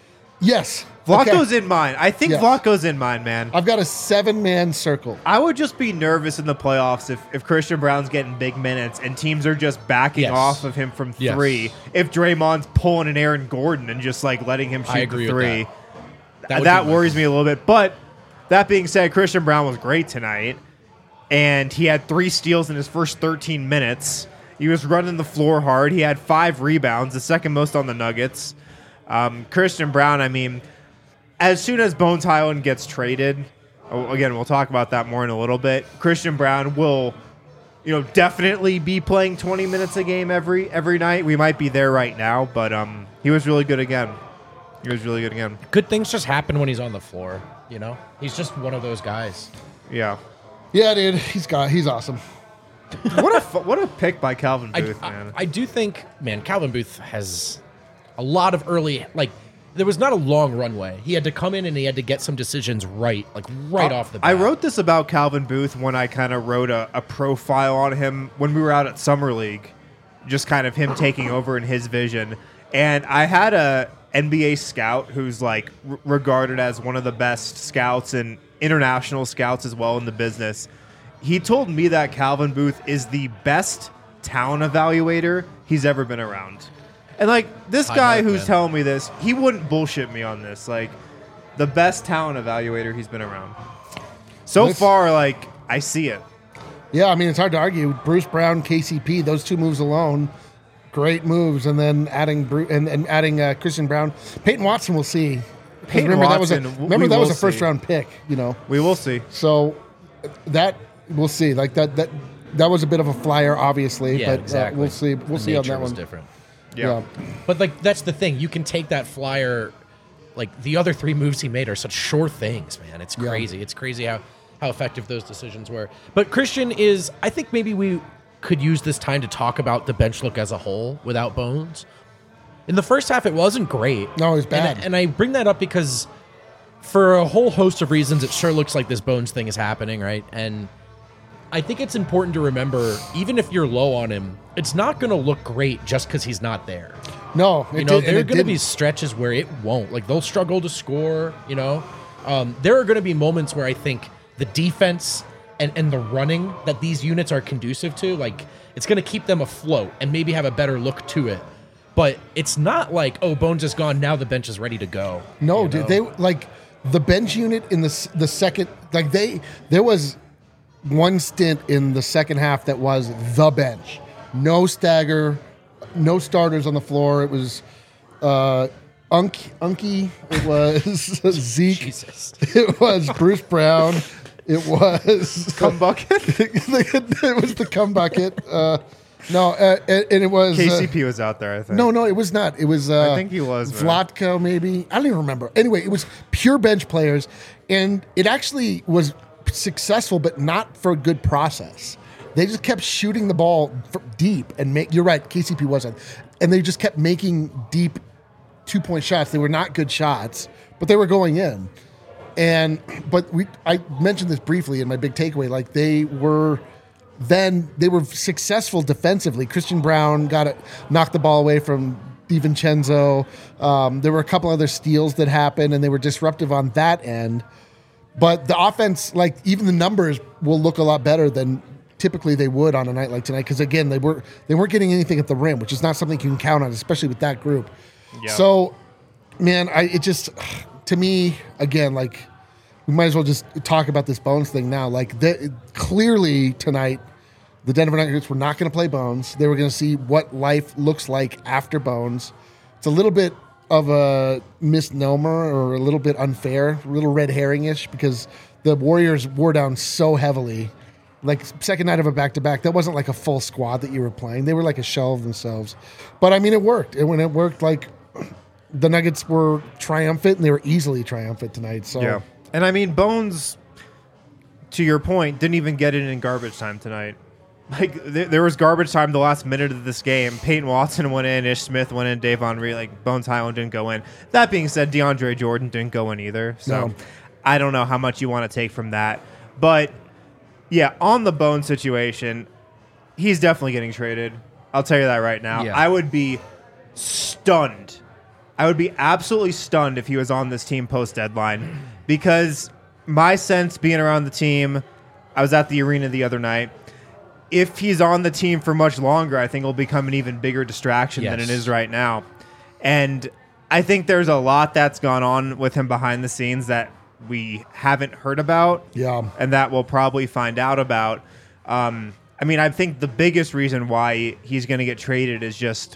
Yes. Vlatko's Okay. in mine. I think Yes. Vlatko's in mine, man. I've got a seven-man circle. I would just be nervous in the playoffs if, if Christian Brown's getting big minutes and teams are just backing Yes. off of him from Yes. three. If Draymond's pulling an Aaron Gordon and just like letting him I shoot agree the with three, that. That that, would that be my worries me a little bit. But that being said, Christian Brown was great tonight, and he had three steals in his first thirteen minutes. He was running the floor hard. He had five rebounds, the second most on the Nuggets. Um, Christian Brown, I mean, as soon as Bones Highland gets traded, oh, again, we'll talk about that more in a little bit. Christian Brown will, you know, definitely be playing twenty minutes a game every every night. We might be there right now, but um, he was really good again. He was really good again. Good things just happen when he's on the floor. You know, he's just one of those guys. Yeah. Yeah, dude, he's got he's awesome. What a fu- what a pick by Calvin I, Booth, I, man. I do think, man, Calvin Booth has a lot of early, like, there was not a long runway. He had to come in and he had to get some decisions right, like right Uh, off the bat. I wrote this about Calvin Booth when I kind of wrote a, a profile on him when we were out at Summer League, just kind of him taking over in his vision. And I had a N B A scout who's like r- regarded as one of the best scouts and international scouts as well in the business. He told me that Calvin Booth is the best talent evaluator he's ever been around. And like this I guy know, who's man. telling me this, he wouldn't bullshit me on this. Like the best talent evaluator he's been around. So This- far, like I see it. Yeah, I mean, it's hard to argue. Bruce Brown, K C P, those two moves alone, great moves. And then adding Bru- and, and adding uh, Christian Brown. Peyton Watson, we'll see. 'Cause Peyton remember Watson, that was a, w- remember we that was will a first see. round pick, you know. We will see. So that we'll see. Like that that that was a bit of a flyer, obviously, Yeah, but exactly. uh, we'll see. We'll The see on nature that was one. different. Yeah. But like that's the thing. You can take that flyer. Like the other three moves he made are such sure things, man. It's Yeah. crazy. It's crazy how how effective those decisions were. But Christian is. I think maybe we could use this time to talk about the bench look as a whole without Bones. In the first half, it wasn't great. No, it was And- bad. And, I bring that up because for a whole host of reasons, it sure looks like this Bones thing is happening, right? And I think it's important to remember, even if you're low on him, it's not going to look great just because he's not there. No, it You know, did, and there are it going to be didn't. stretches where it won't. Like, they'll struggle to score, you know? Um, there are going to be moments where I think the defense and, and the running that these units are conducive to, like, it's going to keep them afloat and maybe have a better look to it. But it's not like, oh, Bones is gone, now the bench is ready to go. No, you dude, know? they like the bench unit in the s- the second. Like they, there was one stint in the second half that was the bench, no stagger, no starters on the floor. It was uh, Unk, Unky. It was Zeke. Jesus. It was Bruce Brown. It was Cum bucket. it was the cum bucket. Uh, no, uh, and, and it was uh, K C P was out there, I think. no, no, it was not. It was. Uh, I think he was, man. Vlatko, maybe. I don't even remember. Anyway, it was pure bench players, and it actually was successful, but not for a good process. They just kept shooting the ball for deep and make. You're right. K C P wasn't, and they just kept making deep two point shots. They were not good shots, but they were going in. And but we, I mentioned this briefly in my big takeaway. Like they were. Then they were successful defensively. Christian Brown got it, knocked the ball away from DiVincenzo. Um, there were a couple other steals that happened, and they were disruptive on that end. But the offense, like even the numbers, will look a lot better than typically they would on a night like tonight. Because again, they were they weren't getting anything at the rim, which is not something you can count on, especially with that group. Yeah. So, man, I it just to me again like. We might as well just talk about this Bones thing now. Like, the, clearly tonight, the Denver Nuggets were not going to play Bones. They were going to see what life looks like after Bones. It's a little bit of a misnomer or a little bit unfair, a little red herring-ish, because the Warriors wore down so heavily. Like, second night of a back-to-back, that wasn't like a full squad that you were playing. They were like a shell of themselves. But, I mean, it worked. And when it worked, like, the Nuggets were triumphant, and they were easily triumphant tonight. So. Yeah. And I mean, Bones, to your point, didn't even get it in garbage time tonight. Like, th- there was garbage time the last minute of this game. Peyton Watson went in, Ish Smith went in, Dave Henry, like, Bones Highland didn't go in. That being said, DeAndre Jordan didn't go in either. So, No. I don't know how much you want to take from that. But, yeah, on the Bone situation, he's definitely getting traded. I'll tell you that right now. Yeah. I would be stunned. I would be absolutely stunned if he was on this team post-deadline because my sense being around the team, I was at the arena the other night, if he's on the team for much longer, I think it'll become an even bigger distraction Yes. than it is right now. And I think there's a lot that's gone on with him behind the scenes that we haven't heard about Yeah. and that we'll probably find out about. Um, I mean, I think the biggest reason why he's going to get traded is just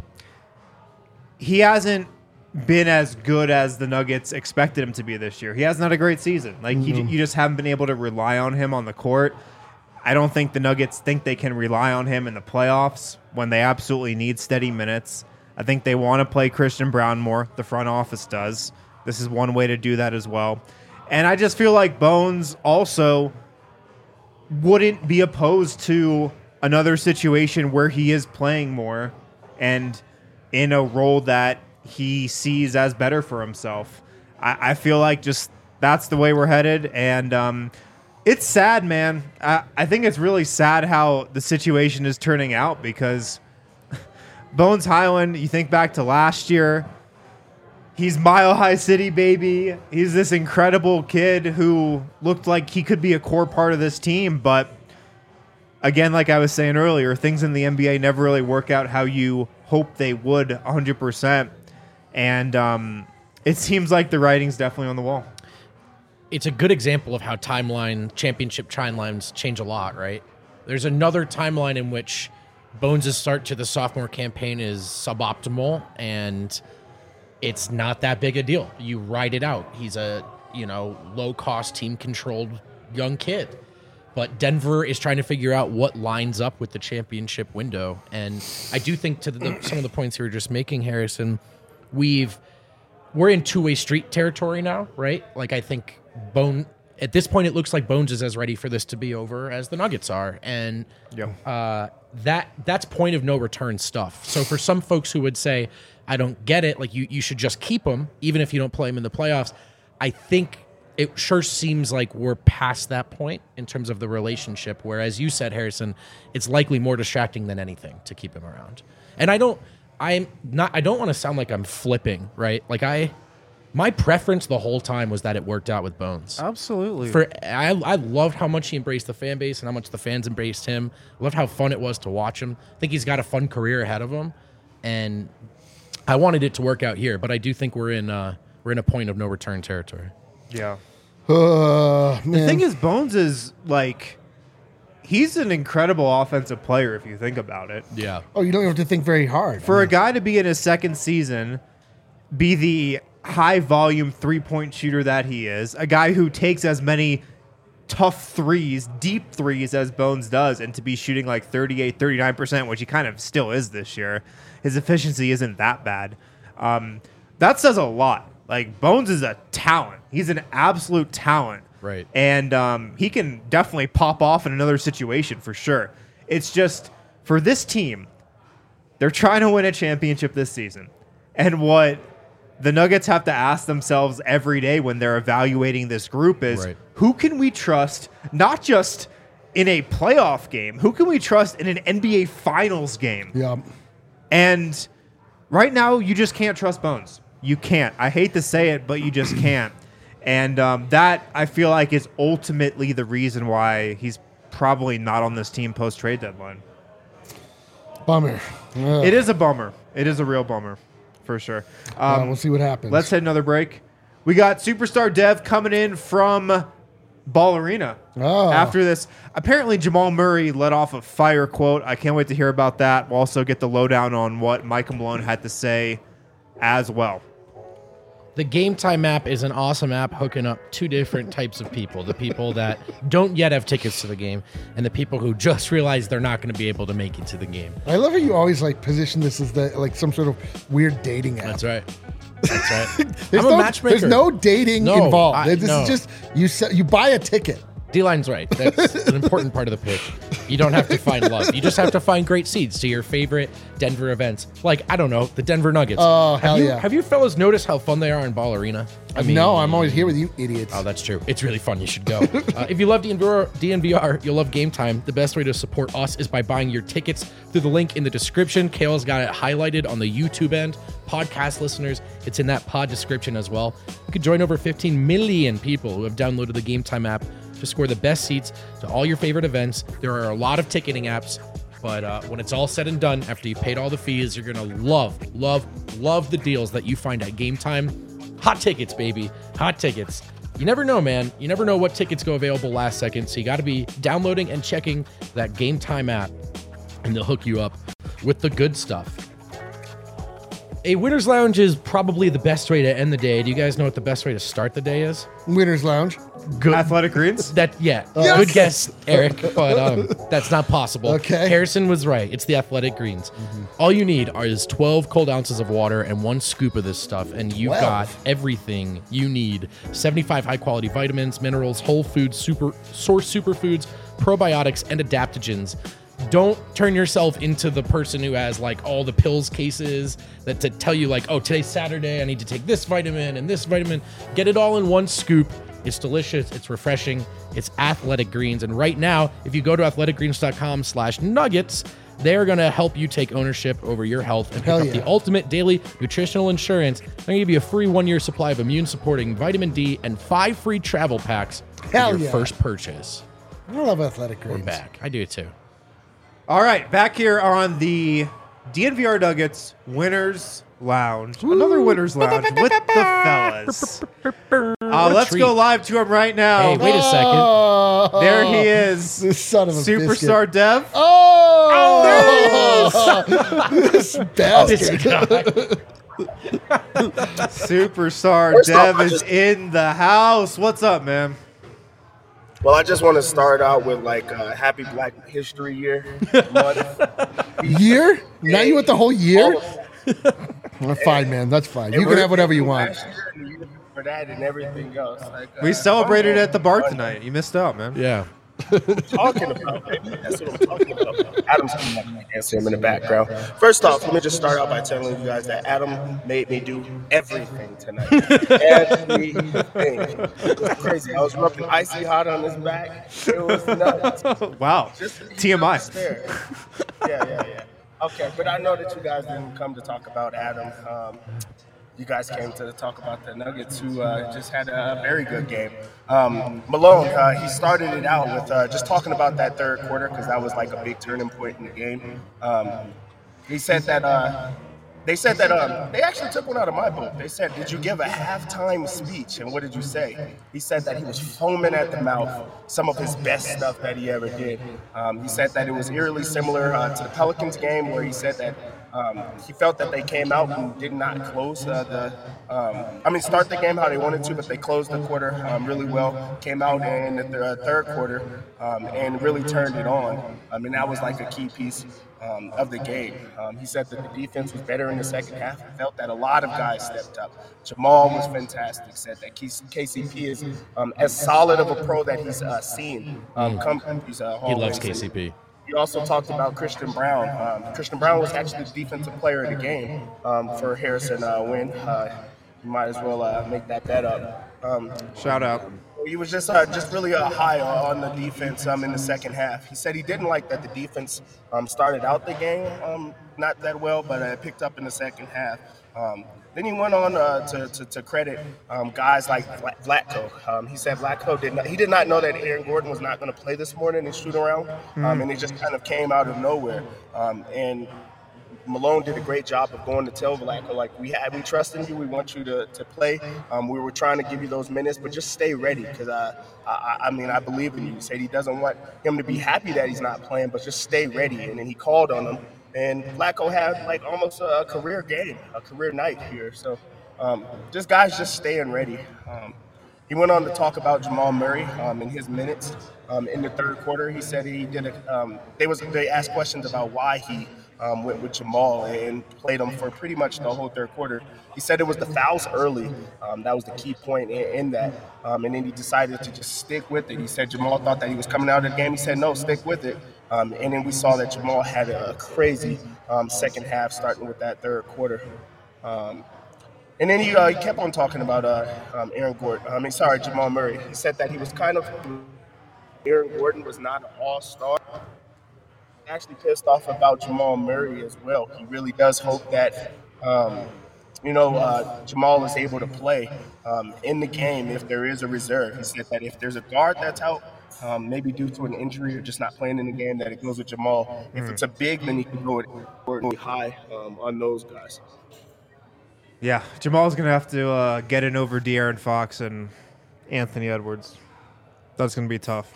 he hasn't been as good as the Nuggets expected him to be this year. He hasn't had a great season. Like he, you just haven't been able to rely on him on the court. I don't think the Nuggets think they can rely on him in the playoffs when they absolutely need steady minutes. I think they want to play Christian Braun more. The front office does. This is one way to do that as well. And I just feel like Bones also wouldn't be opposed to another situation where he is playing more and in a role that he sees as better for himself. I, I feel like just that's the way we're headed. And um, it's sad, man. I, I think it's really sad how the situation is turning out because Bones Hyland, you think back to last year, he's Mile High City, baby. He's this incredible kid who looked like he could be a core part of this team. But again, like I was saying earlier, things in the N B A never really work out how you hope they would one hundred percent. And um, it seems like the writing's definitely on the wall. It's a good example of how timeline, championship timelines change a lot, right? There's another timeline in which Bones' start to the sophomore campaign is suboptimal, and it's not that big a deal. You ride it out. He's a, you know, low-cost, team-controlled young kid. But Denver is trying to figure out what lines up with the championship window. And I do think to the, some of the points you were just making, Harrison, we've we're in two-way street territory now, right? Like I think Bone at this point it looks like Bones is as ready for this to be over as the Nuggets are, and Yep. uh, that that's point of no return stuff. So for some folks who would say, "I don't get it," like you you should just keep him even if you don't play him in the playoffs, I think it sure seems like we're past that point in terms of the relationship. Whereas you said, Harrison, it's likely more distracting than anything to keep him around. And I don't. I'm not. I don't want to sound like I'm flipping, right? Like I, my preference the whole time was that it worked out with Bones. Absolutely. For I, I loved how much he embraced the fan base and how much the fans embraced him. I loved how fun it was to watch him. I think he's got a fun career ahead of him, and I wanted it to work out here. But I do think we're in uh, we're in a point of no return territory. Yeah. Uh, The man. thing is, Bones is like, he's an incredible offensive player if you think about it. Yeah. Oh, you don't have to think very hard. For a guy to be in his second season, be the high volume three point shooter that he is, a guy who takes as many tough threes, deep threes as Bones does, and to be shooting like thirty-eight, thirty-nine percent, which he kind of still is this year, his efficiency isn't that bad. Um, that says a lot. Like, Bones is a talent. He's an absolute talent. Right. And um, he can definitely pop off in another situation for sure. It's just, for this team, they're trying to win a championship this season. And what the Nuggets have to ask themselves every day when they're evaluating this group is, Right. who can we trust, not just in a playoff game, who can we trust in an N B A Finals game? Yeah. And right now, you just can't trust Bones. You can't. I hate to say it, but you just can't. And um, that, I feel like, is ultimately the reason why he's probably not on this team post-trade deadline. Bummer. Ugh. It is a bummer. It is a real bummer, for sure. Uh, Um, we'll see what happens. let's hit another break. We got Superstar Dev coming in from Ball Arena. Oh. After this, apparently Jamal Murray let off a fire quote. I can't wait to hear about that. We'll also get the lowdown on what Michael Malone had to say as well. The Game Time app is an awesome app hooking up two different types of people. The people that don't yet have tickets to the game and the people who just realize they're not going to be able to make it to the game. I love how you always like position this as the like some sort of weird dating app. That's right. That's right. There's I'm no, a matchmaker. There's no dating No, involved. I- this no. is just you. se- You buy a ticket. D-line's right. That's an important part of the pitch. You don't have to find love. You just have to find great seeds to your favorite Denver events. Like, I don't know, the Denver Nuggets. Oh, have hell you, yeah. Have you fellas noticed how fun they are in Ball Arena? I mean, no, I'm always here with you idiots. Oh, that's true. It's really fun. You should go. uh, if you love D N V R, D N V R, you'll love Game Time. The best way to support us is by buying your tickets through the link in the description. Kale's got it highlighted on the YouTube end. Podcast listeners, it's in that pod description as well. You could join over fifteen million people who have downloaded the Game Time app to score the best seats to all your favorite events. There are a lot of ticketing apps, but uh, when it's all said and done, after you paid all the fees, you're going to love, love, love the deals that you find at Game Time. Hot tickets, baby. Hot tickets. You never know, man. You never know what tickets go available last second, so you got to be downloading and checking that Game Time app, and they'll hook you up with the good stuff. A Winner's Lounge is probably the best way to end the day. Do you guys know what the best way to start the day is? Winner's Lounge. Good. Athletic Greens? That yeah, Yes! good guess, Eric, but um, that's not possible. Okay. Harrison was right. It's the Athletic Greens. Mm-hmm. All you need are is twelve cold ounces of water and one scoop of this stuff, and you've got twelve? everything you need. seventy-five high quality vitamins, minerals, whole food, super source superfoods, probiotics, and adaptogens. Don't turn yourself into the person who has like all the pills cases that to tell you like, oh, today's Saturday, I need to take this vitamin and this vitamin. Get it all in one scoop. It's delicious. It's refreshing. It's Athletic Greens. And right now, if you go to athleticgreens.com slash nuggets, they're going to help you take ownership over your health and pick Hell up yeah. the ultimate daily nutritional insurance. They're going to give you a free one-year supply of immune-supporting vitamin D and five free travel packs Hell with your yeah. first purchase. I love Athletic We're Greens. back. I do too. All right, back here on the D N V R Nuggets Winners Lounge. Another Winners Lounge with the fellas. Uh, let's treat. go live to him right now. Hey, wait a second. Oh, There he is. This son of a Superstar biscuit. Dev. Oh, this bastard. Superstar First off, Dev I is just- in the house. What's up, man? Well, I just want to start out with like uh, Happy Black History Year month. Year? Now you want the whole year? All of- Well, fine, man. That's fine. You and can we're have whatever you want. last year and the year For that and everything else. Like, uh, We celebrated I'm at the bar fun. tonight. You missed out, man. Yeah. Talking about, baby. That's what I'm talking about. Adam's coming up. I can't see him in the background. First off, let me just start out by telling you guys that Adam made me do everything tonight. Everything. It was crazy. I was rubbing icy hot on his back. It was nuts. Wow. Just T M I. stare. Yeah, yeah, yeah. Okay, but I know that you guys didn't come to talk about Adam. Um, you guys came to talk about the Nuggets, who uh, just had a very good game. Um, Malone, uh, he started it out with uh, just talking about that third quarter because that was like a big turning point in the game. Um, he said that uh, they said that um, they actually took one out of my book. They said, "Did you give a halftime speech?" And what did you say? He said that he was foaming at the mouth. Some of his best stuff that he ever did. Um, he said that it was eerily similar uh, to the Pelicans game, where he said that. Um, he felt that they came out and did not close uh, the, um, I mean, start the game how they wanted to, but they closed the quarter um, really well. Came out in the th- uh, third quarter um, and really turned it on. I mean, that was like a key piece um, of the game. Um, he said that the defense was better in the second half. He felt that a lot of guys stepped up. Jamal was fantastic. Said that K C P is um, as solid of a pro that he's uh, seen. Um, come these uh, He loves hallways. K C P. He also talked about Christian Brown. Um, Christian Brown was actually the defensive player of the game um, for Harrison uh, win. Uh, you might as well uh, make that bet up. Um, Shout out. he was just uh, just really uh, high on the defense um, in the second half. He said he didn't like that the defense um, started out the game um, not that well, but uh, picked up in the second half. Um, then he went on uh, to, to, to credit um, guys like Vla- Vlatko. Um, he said Vlatko did not, he did not know that Aaron Gordon was not going to play this morning in shoot around, um, and it just kind of came out of nowhere. Um, and Malone did a great job of going to tell Vlatko, like, we have, we trust in you, we want you to, to play. Um, we were trying to give you those minutes, but just stay ready, because uh, I, I mean, I believe in you. He said he doesn't want him to be happy that he's not playing, but just stay ready. And then he called on him. And Vlatko had like almost a career game, a career night here. So um, just guys just staying ready. Um, he went on to talk about Jamal Murray um, in his minutes um, in the third quarter. He said he did a, um, they was they asked questions about why he um, with, with Jamal and played him for pretty much the whole third quarter. He said it was the fouls early. Um, that was the key point in, in that. Um, and then he decided to just stick with it. He said Jamal thought that he was coming out of the game. He said, no, stick with it. Um, and then we saw that Jamal had a crazy um, second half starting with that third quarter. Um, and then he, uh, he kept on talking about uh, um, Aaron Gordon. I mean, sorry, Jamal Murray. He said that he was kind of – Aaron Gordon was not an all-star. Actually pissed off about Jamal Murray as well. He really does hope that um, – you know, uh, Jamal is able to play um, in the game if there is a reserve. He said that if there's a guard that's out, um, maybe due to an injury or just not playing in the game, that it goes with Jamal. Mm. If it's a big, then he can go really high um, on those guys. Yeah, Jamal's going to have to uh, get in over De'Aaron Fox and Anthony Edwards. That's going to be tough.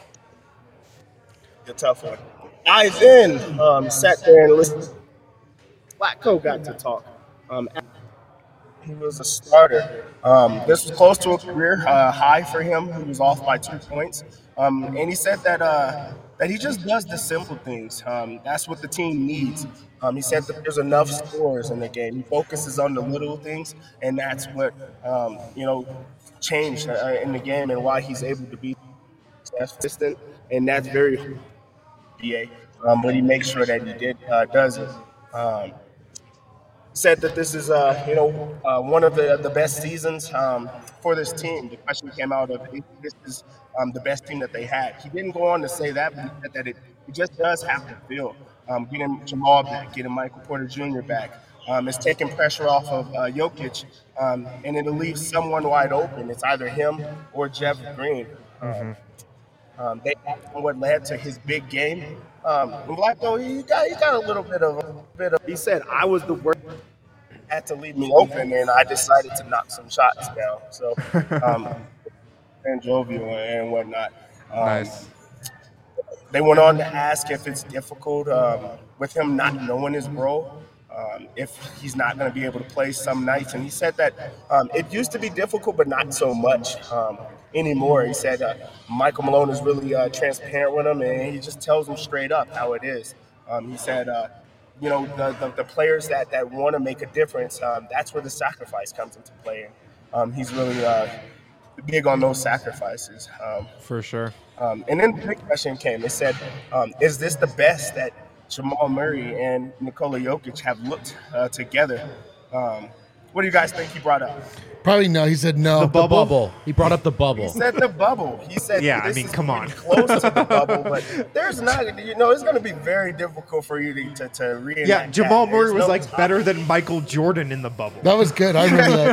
A tough one. Eyes in, um, sat there and listened. Flacco got to talk. Um, He was a starter. Um, this was close to a career uh, high for him. He was off by two points. Um, and he said that uh, that he just does the simple things. Um, that's what the team needs. Um, he said that there's enough scores in the game. He focuses on the little things, and that's what, um, you know, changed uh, in the game and why he's able to be consistent. And that's very um, but he makes sure that he did uh, does it. Um, said that this is, uh, you know, uh, one of the, the best seasons um, for this team. The question came out of this is um, the best team that they had. He didn't go on to say that, but he said that it, it just does have to feel. Um, getting Jamal back, getting Michael Porter Junior back. Um, it's taking pressure off of uh, Jokic, um, and it'll leave someone wide open. It's either him or Jeff Green. Mm-hmm. Um, they what led to his big game. Um, and Blacko, he got he got a little bit of a bit of. He said, "I was the worst. Had to leave me open, and I decided to knock some shots down." So, um, and jovial and whatnot. Um, nice. They went on to ask if it's difficult um, with him not knowing his role. Um, if he's not going to be able to play some nights. And he said that um, it used to be difficult, but not so much um, anymore. He said uh, Michael Malone is really uh, transparent with him, and he just tells him straight up how it is. Um, he said, uh, you know, the, the, the players that, that want to make a difference, um, that's where the sacrifice comes into play. And um, he's really uh, big on those sacrifices. Um, For sure. Um, and then the big question came. It said, um, is this the best that Jamal Murray and Nikola Jokic have looked uh, together? Um, what do you guys think he brought up? Probably no. He said no. The bubble. bubble. He brought up the bubble. He said the bubble. He said, yeah, this I mean, is come on. close to the bubble, but there's not, you know, it's going to be very difficult for you to, to, to reenact Yeah, Jamal that. Murray There's was no like time. better than Michael Jordan in the bubble. That was good. I remember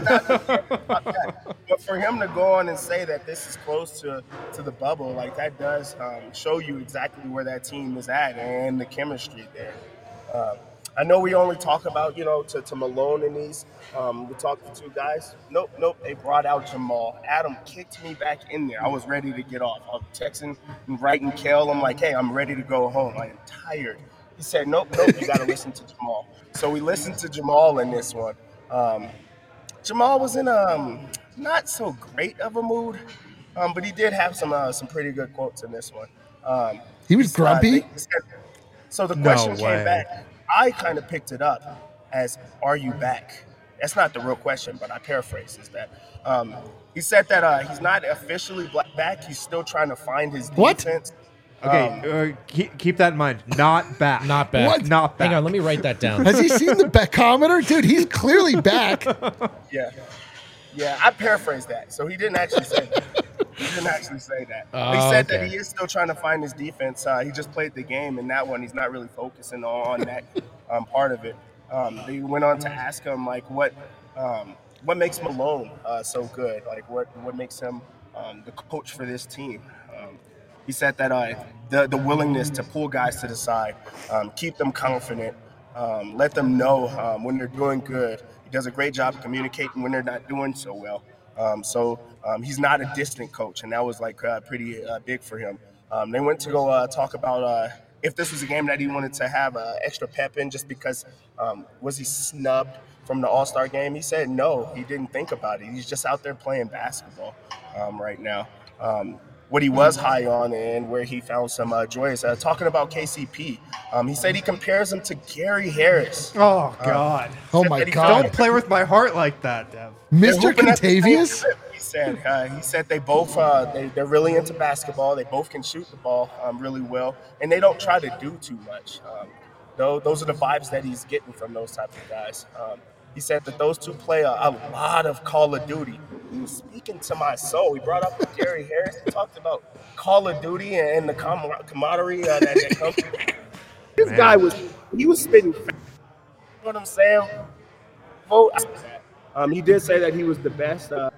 that. But for him to go on and say that this is close to, to the bubble, like that does um, show you exactly where that team is at and the chemistry there. Um, I know we only talk about, you know, to, to Malone and these. Um, we talked to two guys. Nope, nope. They brought out Jamal. Adam kicked me back in there. I was ready to get off. I was texting and writing Kel. I'm like, hey, I'm ready to go home. I am tired. He said, nope, nope. You got to listen to Jamal. So we listened to Jamal in this one. Um, Jamal was in a um, not so great of a mood, um, but he did have some uh, some pretty good quotes in this one. Um, He was grumpy? Uh, said, so the No question way. came back. I kind of picked it up as, are you back? That's not the real question, but I paraphrase is that. Um, he said that uh, he's not officially back. He's still trying to find his What? defense. Okay, Um, uh, keep, keep that in mind. Not back. Not back. What? Not back. Hang on, let me write that down. Has he seen the Beckometer? Dude, he's clearly back. Yeah. Yeah, I paraphrased that. So he didn't actually say that. He didn't actually say that. Oh, he said okay. that he is still trying to find his defense. Uh, he just played the game, and that one he's not really focusing on that um, part of it. Um, they went on to ask him, like, what um, what makes Malone uh, so good? Like, what, what makes him um, the coach for this team? Um, he said that uh, the, the willingness to pull guys to the side, um, keep them confident, um, let them know um, when they're doing good. He does a great job of communicating when they're not doing so well. Um, so um, he's not a distant coach, and that was like uh, pretty uh, big for him. Um, they went to go uh, talk about uh, if this was a game that he wanted to have uh, extra pep in just because um, was he snubbed from the All-Star game? He said no, he didn't think about it. He's just out there playing basketball um, right now. Um, what he was high on and where he found some uh, joy is uh, talking about K C P. Um, he said he compares him to Gary Harris. Oh God! Oh Said my that he God. felt- Don't play with my heart like that, Dev. They're Mister hooping at the same Contavious? clip, He said. Uh, he said they both uh, they they're really into basketball. They both can shoot the ball um, really well, and they don't try to do too much. Um, though those are the vibes that he's getting from those types of guys. Um, he said that those two play a, a lot of Call of Duty. He was speaking to my soul. He brought up Gary Harris. He talked about Call of Duty and the com- camaraderie uh, that, that comes. This guy was he was spitting. You know what I'm saying? Vote. Um, he did say that he was the best. Uh,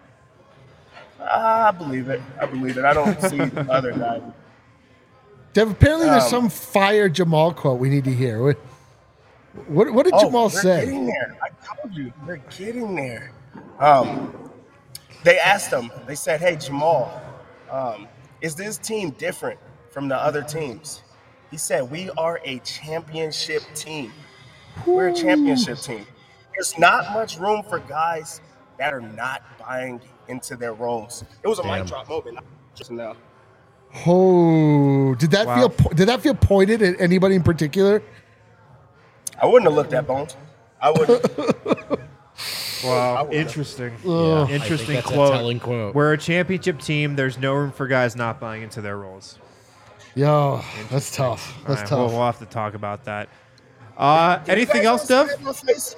I believe it. I believe it. I don't see the other guy. Dev, apparently there's Um, some fire Jamal quote we need to hear. What, what, what did Oh, Jamal they're say? getting there. I told you, they're getting there. Um, they asked him. They said, "Hey, Jamal, um, is this team different from the other teams?" He said, "We are a championship team. We're a championship team. There's not much room for guys that are not buying into their roles." It was a mic drop moment. Just now. Oh, did that Wow. feel po- did that feel pointed at anybody in particular? I wouldn't have looked at Bones. I wouldn't. Wow, would've. interesting. Yeah, I think Interesting that's a quote. telling quote. We're a championship team. There's no room for guys not buying into their roles. Yo, that's tough. All That's right, tough. We'll, we'll have to talk about that. Uh, Can you anything guys else, see Dev? my face?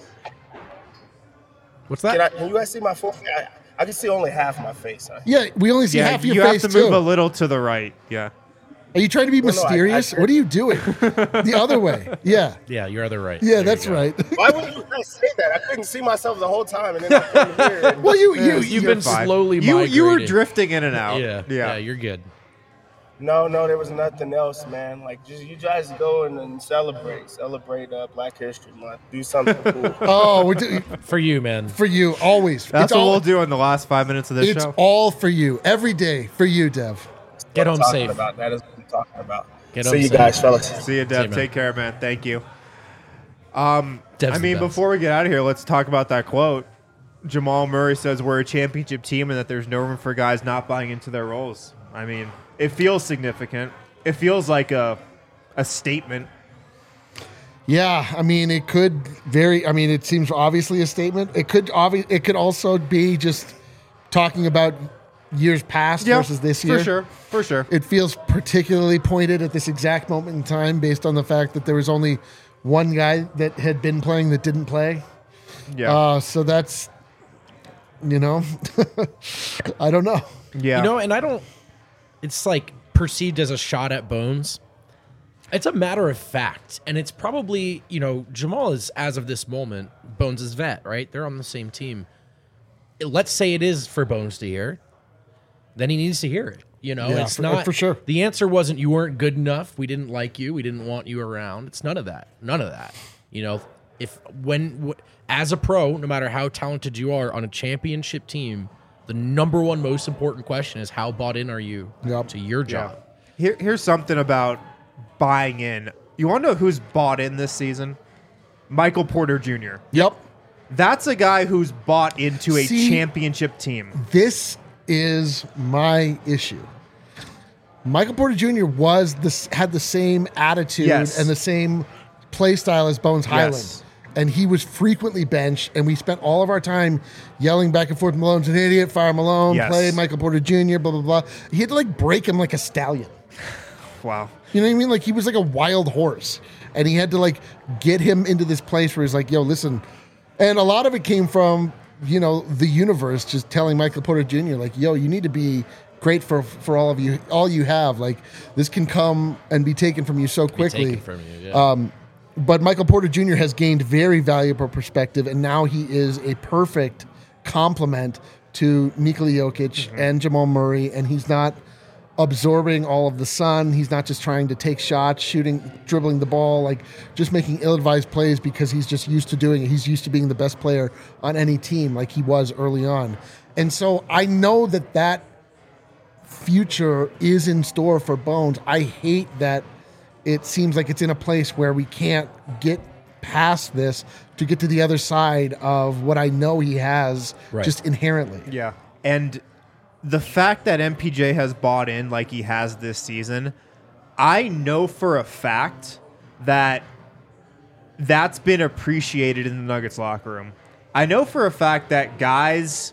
What's Can, that? I, can you guys see my full face? I, I can see only half my face. Huh? Yeah, we only see Yeah, half your you face have to move too. a little to the right. Yeah. Are you trying to be Well, no, I- I- mysterious? what are you doing? The other way. Yeah. Yeah, you're other right. Yeah, There that's you go. right. Why would you guys say that? I couldn't see myself the whole time, and then I came here. And, Well, you you You've you been Fine. slowly You you were migrating. drifting in and out. Yeah, Yeah. yeah, you're good. no, no, there was nothing else, man. Like, just you guys go and, and celebrate, celebrate uh, Black History Month. Do something cool. Oh, we're do- For you, man. for you always. That's it's what all, we'll do in the last five minutes of this It's show. all for you every day for you, Dev. Get What I'm home talking safe. About. That is what I'm talking about. Get See home you safe. guys, fellas. See you, Dev. you, man. Take care, man. Thank you. Um, Dev's I the mean, best. before we get out of here, let's talk about that quote. Jamal Murray says we're a championship team and that there's no room for guys not buying into their roles. I mean, it feels significant. It feels like a a statement. Yeah, I mean, it could very. I mean, it seems obviously a statement. It could obvi- It could also be just talking about years past versus this year. for sure, for sure. It feels particularly pointed at this exact moment in time, based on the fact that there was only one guy that had been playing that didn't play. Yeah, Uh, so that's, you know, I don't know. yeah. You know, and I don't. It's like perceived as a shot at Bones. It's a matter of fact, and it's probably, you know, Jamal is, as of this moment, Bones' vet, right? They're on the same team. Let's say it is for Bones to hear, then he needs to hear it. You know, Yeah, it's for- not for sure. The answer wasn't you weren't good enough. We didn't like you. We didn't want you around. It's none of that. None of that. You know, if when w- as a pro, no matter how talented you are on a championship team, the number one most important question is how bought in are you Yep. to your Yeah. job? Here, here's something about buying in. You want to know who's bought in this season? Michael Porter Junior Yep. That's a guy who's bought into a See- championship team. This is my issue. Michael Porter Junior was this had the same attitude Yes. and the same play style as Bones Highland. Yes. And he was frequently benched, and we spent all of our time yelling back and forth, Malone's an idiot, fire Malone, Yes. play Michael Porter Junior, blah, blah, blah. He had to like break him like a stallion. Wow. You know what I mean? Like he was like a wild horse, and he had to like get him into this place where he's like, "Yo, listen." And a lot of it came from, you know, the universe just telling Michael Porter Junior like, "Yo, you need to be great for for all of you, all you have. Like this can come and be taken from you so Be quickly." taken from you. Yeah. But Michael Porter Junior has gained very valuable perspective, and now he is a perfect complement to Nikola Jokic and Jamal Murray, and he's not absorbing all of the sun. He's not just trying to take shots, shooting, dribbling the ball, like just making ill-advised plays because he's just used to doing it. He's used to being the best player on any team like he was early on. And so I know that that future is in store for Bones. I hate that it seems like it's in a place where we can't get past this to get to the other side of what I know he has Right. just inherently. Yeah. And the fact that M P J has bought in like he has this season, I know for a fact that that's been appreciated in the Nuggets locker room. I know for a fact that guys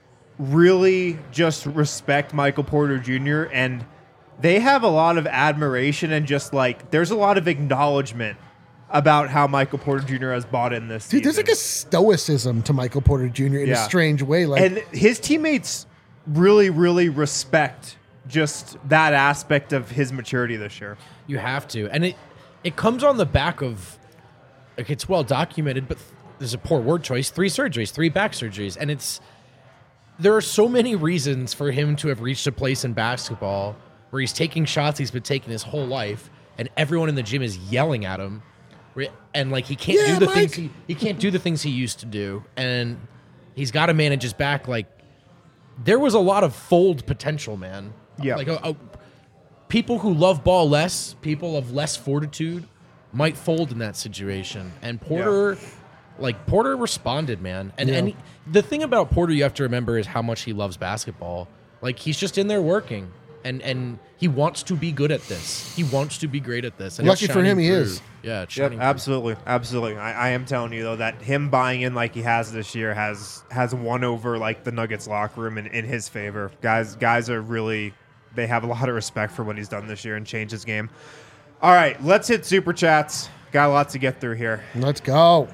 really just respect Michael Porter Junior and they have a lot of admiration and just like there's a lot of acknowledgement about how Michael Porter Junior has bought in this Dude, season. there's like a stoicism to Michael Porter Junior in Yeah. a strange way. Like, and his teammates really, really respect just that aspect of his maturity this year. You have to, and it it comes on the back of like it's well documented, but there's a poor word choice. Three surgeries, three back surgeries, and it's there are so many reasons for him to have reached a place in basketball where he's taking shots he's been taking his whole life, and everyone in the gym is yelling at him, where- and like he can't Yeah, do the Mike. things he he can't do the things he used to do, and he's got to manage his back. Like there was a lot of fold potential, man. Yeah. like a, a, people who love ball less, people of less fortitude, might fold in that situation, and Porter. Like, Porter responded, man. And, Yeah. and he- the thing about Porter you have to remember is how much he loves basketball. Like, he's just in there working. And and he wants to be good at this. He wants to be great at this. And it's Lucky for him, shining he through. is. Yeah, it's Yep, shining through. absolutely, absolutely. I, I am telling you though that him buying in like he has this year has has won over like the Nuggets locker room in, in his favor. Guys, guys are really they have a lot of respect for what he's done this year and changed his game. All right, let's hit super chats. Got a lot to get through here. let's go.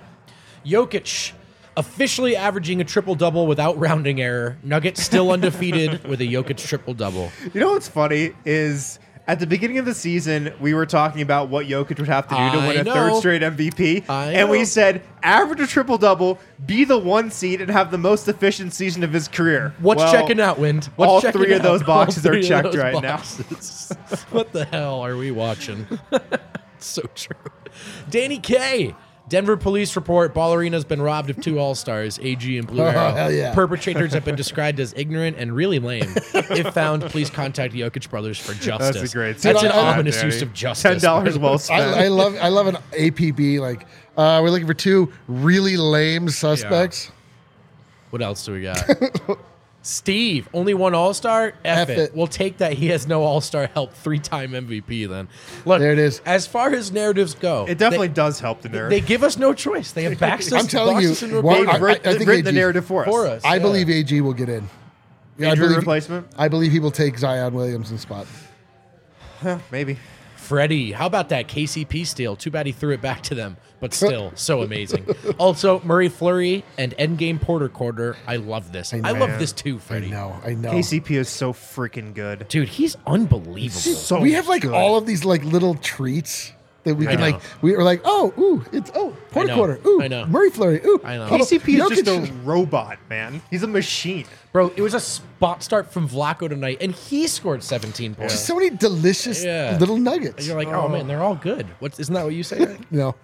Jokic officially averaging a triple-double without rounding error. Nuggets still undefeated with a Jokic triple-double. You know what's funny is at the beginning of the season, we were talking about what Jokic would have to do to I win a know. third straight M V P. I and we know. said, average a triple-double, be the one seed, and have the most efficient season of his career. What's Well, checking out, Wind? What's all checking three of out? those boxes All are three of checked those right now. boxes. What the hell are we watching? So true. Danny K. Denver police report Ballerina's been robbed of two All-Stars, A G and Blue Oh, Arrow. hell yeah. Perpetrators have been described as ignorant and really lame. If found, please contact the Jokic brothers for justice. That's a great That's Dude, an I- I- ominous Danny. use of justice. ten dollars well spent. I, I love I love an A P B. Like, uh, we're looking for two really lame suspects. What else do we got? Steve, only one All-Star? F, F it. it. We'll take that he has no All-Star help, three-time M V P then. Look, There it is. As far as narratives go, It definitely they, does help the narrative. they give us no choice. They have backed us, I'm telling boxed you, us into a one- corner They've I- writ- I think written the A G narrative for us. for us. I yeah. believe A G will get in. Yeah, I Injury believe, replacement? I believe he will take Zion Williamson's spot. Maybe. Freddie, how about that K C P steal? Too bad he threw it back to them, but still, so amazing. Also, Murray Fleury and Endgame Porter quarter. I love this. I, know. love this too, I Freddie. know, I know. K C P is so freaking good. Dude, he's unbelievable. So we have like good. all of these like little treats that we I can know. like. We were like, oh, ooh, it's oh, Porter know. quarter, ooh, I know. Murray Fleury, ooh, I know. oh, K C P is just Jokic. a robot, man. He's a machine. Bro, it was a spot start from Vlaco tonight, and he scored seventeen points. Just so many delicious Yeah. little nuggets. And you're like, oh, man, they're all good. What isn't that what you say? Right? no,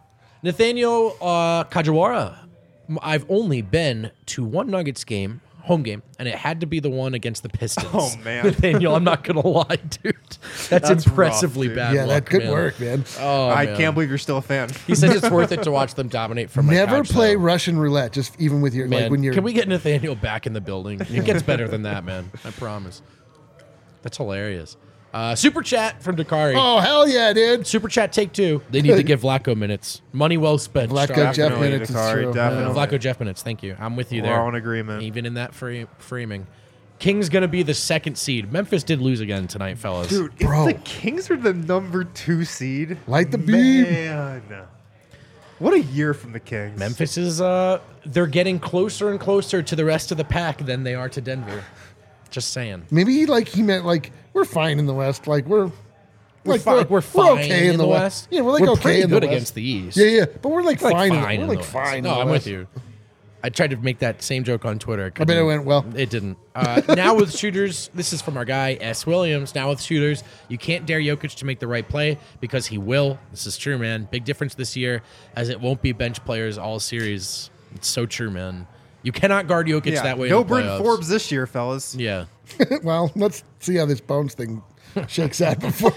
Nathaniel uh, Kajiwara. M- I've only been to one Nuggets game, home game, and it had to be the one against the Pistons. Oh, man. Nathaniel, I'm not gonna lie, dude. That's, That's impressively rough, dude. bad. yeah, luck, that good man. work, man. Oh, I man. can't believe you're still a fan. He says it's worth it to watch them dominate from my Never couch, play though. Russian roulette, just even with your Man, like when you're. can we get Nathaniel back in the building? It gets better than that, man. I promise. That's hilarious. Uh, super chat from Dakari. Oh hell yeah, dude! Super chat take two. They need to give Vlaco minutes. Money well spent. Vlaco Strong. Jeff Definitely, minutes is Dakari, true. definitely. Vlaco Jeff minutes. Thank you. I'm with you We're there. all in agreement. Even in that frame, framing. Kings going to be the second seed. Memphis did lose again tonight, fellas. Dude, Bro. if the Kings are the number two seed, Light the beam. man, what a year from the Kings. Memphis is, uh, they're getting closer and closer to the rest of the pack than they are to Denver. Just saying. Maybe he like he meant like we're fine in the West. Like we're We're, like fi- we're fine okay in the West. Yeah, we're like we're okay pretty in good the West. against the East. Yeah, yeah, but we're like We're fine. like in, fine we're in like the West. fine. in No, the I'm West. with you. I tried to make that same joke on Twitter. I bet it went well. It didn't. Uh, now with shooters, this is from our guy S. Williams. Now with shooters, you can't dare Jokic to make the right play because he will. This is true, man. Big difference this year, as it won't be bench players all series. It's so true, man. You cannot guard Jokic yeah, that way. no in the Bryn playoffs. Forbes this year, fellas. Yeah. Well, let's see how this Bones thing shakes out before.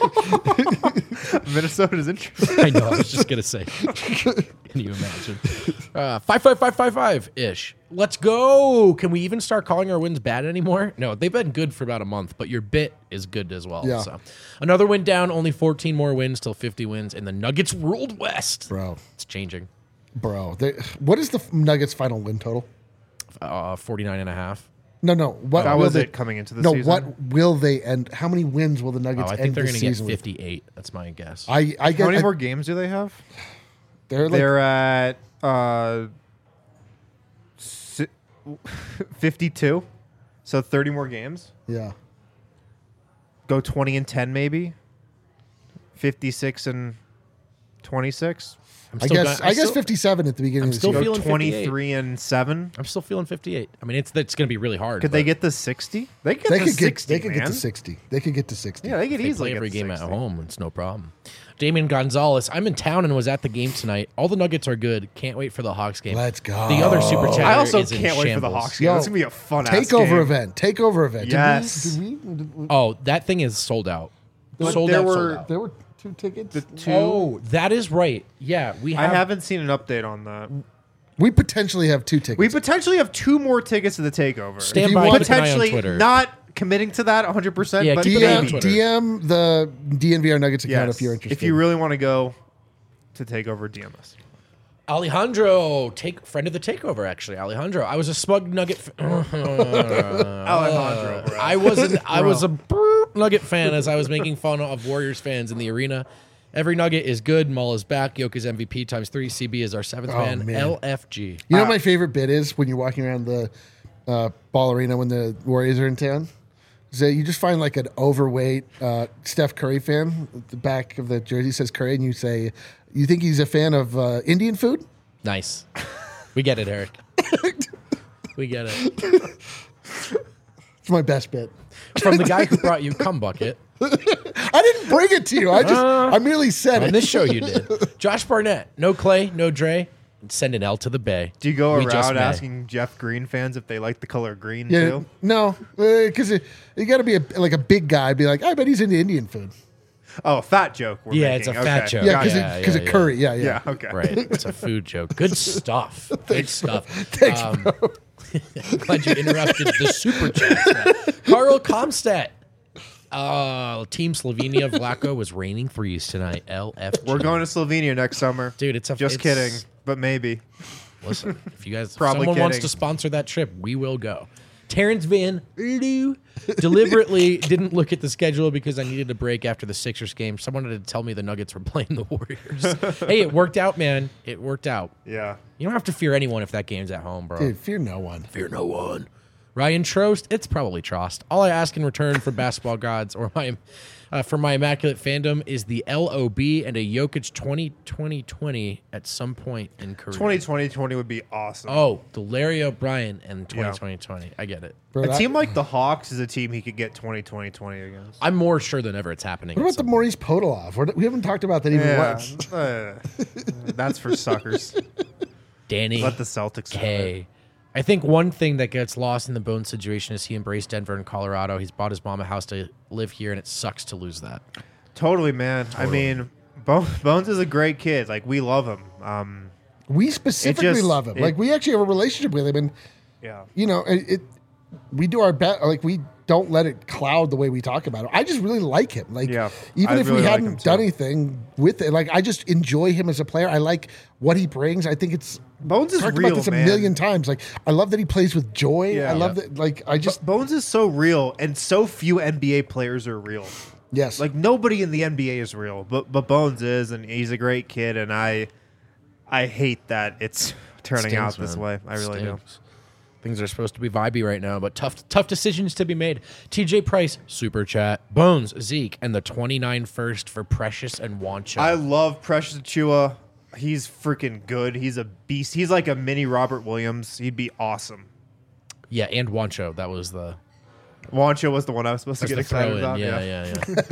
Minnesota's interesting. I know. I was just gonna say. Can you imagine? Uh, five five five five five ish. Let's go. Can we even start calling our wins bad anymore? No, they've been good for about a month, but your bit is good as well. Yeah. So another win down, only fourteen more wins till fifty wins, and the Nuggets ruled West. Bro, It's changing. bro. They, what is the Nuggets' final win total? Uh, forty-nine and a half. No, no. What That will was they, it coming into the no, season. what will they end? How many wins will the Oh, Nuggets I think end they're this going to get season with? fifty-eight. That's my guess. I, I get. How many I- more games do they have? They're like They're at uh, si- fifty-two. So thirty more games. yeah. Go twenty and ten maybe. fifty-six and twenty-six. I'm I still guess. gonna- I guess still- fifty-seven at the beginning I'm of the still season. Go feeling twenty-three and seven. I'm still feeling fifty-eight. I mean, it's it's going to be really hard. Could they but get to sixty? They could get They to could get. sixty. They could get man. to sixty. They could get to sixty. Yeah, they could They easily play get every to game at sixty. home. It's no problem. Damian Gonzalez. I'm in town and was at the game tonight. All the Nuggets are good. Can't wait for the Hawks game. Let's go. The other super chat. I also is in can't wait for the shambles. Hawks game. Yo, It's gonna be a fun ass Takeover game. event. Takeover event. Did we- Yes. Did we, did we- Oh, that thing is sold out. But sold there out. were- sold out. there were two tickets. The two. Oh, that is right. Yeah, we I have. haven't seen an update on that. We potentially have two tickets. We potentially have two more tickets to the takeover. Stand If you by. want- Keep an eye on potentially Twitter. not committing to that one hundred percent. Yeah, but keep an eye on D M, Twitter. D M the D N V R Nuggets account yes, if you're interested. if you really want to go to takeover, D M us. Alejandro, take friend of the takeover. Actually, Alejandro. I was a smug Nugget. F- Alejandro, bro. I wasn't. I was a brr- Nugget fan as I was making fun of Warriors fans in the arena. Every Nugget is good. Mull is back. Yoke is M V P times three. C B is our seventh Oh, man. man. L F G. You know Uh, what my favorite bit is when you're walking around the uh, ball arena when the Warriors are in town? Is that you just find like an overweight uh, Steph Curry fan. The back of the jersey says Curry, and you say, "You think he's a fan of uh, Indian food?" Nice. We get it, Eric. We get it. It's my best bit. From the guy who brought you cum bucket. I didn't bring it to you. I just I merely said On it. this show, you did. Josh Barnett. No Clay. No Dre. Send an L to the Bay. Do you go We just around may. asking Jeff Green fans if they like the color green Yeah, too? no, because you got to be a, like a big guy. Be like, I bet he's into Indian food. Oh, fat joke. We're Yeah, making. it's a fat Okay. joke. Yeah, because Yeah, because yeah, of yeah. curry. Yeah, yeah. Yeah. Okay. Right. It's a food joke. Good stuff. Good stuff. Thanks, Um, glad you interrupted the super chat. Carl Comstat. Uh, Team Slovenia Vlaco was raining threes tonight. L F G. We're going to Slovenia next summer. Dude, it's a Just it's- kidding, but maybe. Listen, if you guys, if Probably someone wants kidding. to sponsor that trip, we will go. Terrence Van Loo deliberately didn't look at the schedule because I needed a break after the Sixers game. Someone had to tell me the Nuggets were playing the Warriors. Hey, it worked out, man. It worked out. Yeah. You don't have to fear anyone if that game's at home, bro. Dude, fear no one. Fear no one. Ryan Trost, it's probably Trost. All I ask in return for basketball gods or my uh, for my immaculate fandom is the L O B and a Jokic twenty twenty twenty at some point in career. twenty twenty twenty would be awesome. Oh, the Larry O'Brien and twenty Yeah. twenty twenty. I get it. Bro, A that- team like the Hawks is a team he could get twenty twenty twenty against. I'm more sure than ever it's happening. what at about the some- Maurice Podolov? We're- We haven't talked about that even Yeah. once. Uh, that's for suckers. Danny Let the Celtics have it. K. I think one thing that gets lost in the Bones situation is he embraced Denver and Colorado. He's bought his mom a house to live here, and it sucks to lose that. Totally, man. I mean, Bo- Bones is a great kid. Like, we love him. Um, We specifically just- love him. it- like we actually have a relationship with him, and yeah. you know, it, it we do our best. Like we don't let it cloud the way we talk about him. I just really like him. Like Yeah, even I if really we like hadn't him too. done anything with it, like I just enjoy him as a player. I like what he brings. I think it's Bones is talked real, about this a man. million times. Like I love that he plays with joy. Yeah. I love Yeah. that. Like I just Bones is so real, and so few N B A players are real. yes. Like, nobody in the N B A is real, but but Bones is, and he's a great kid, and I I hate that it's turning out Stinks, this man. way. I really Stinks. Things are supposed to be vibey right now, but tough tough decisions to be made. T J Price, super chat. Bones, Zeke, and the twenty-nine first for Precious and Wancha. do. I love Precious Achua. He's freaking good. He's a beast. He's like a mini Robert Williams. He'd be awesome. yeah, and Wancho. That was the, Wancho was the one I was supposed to that's get the throw excited in. about. Yeah, yeah,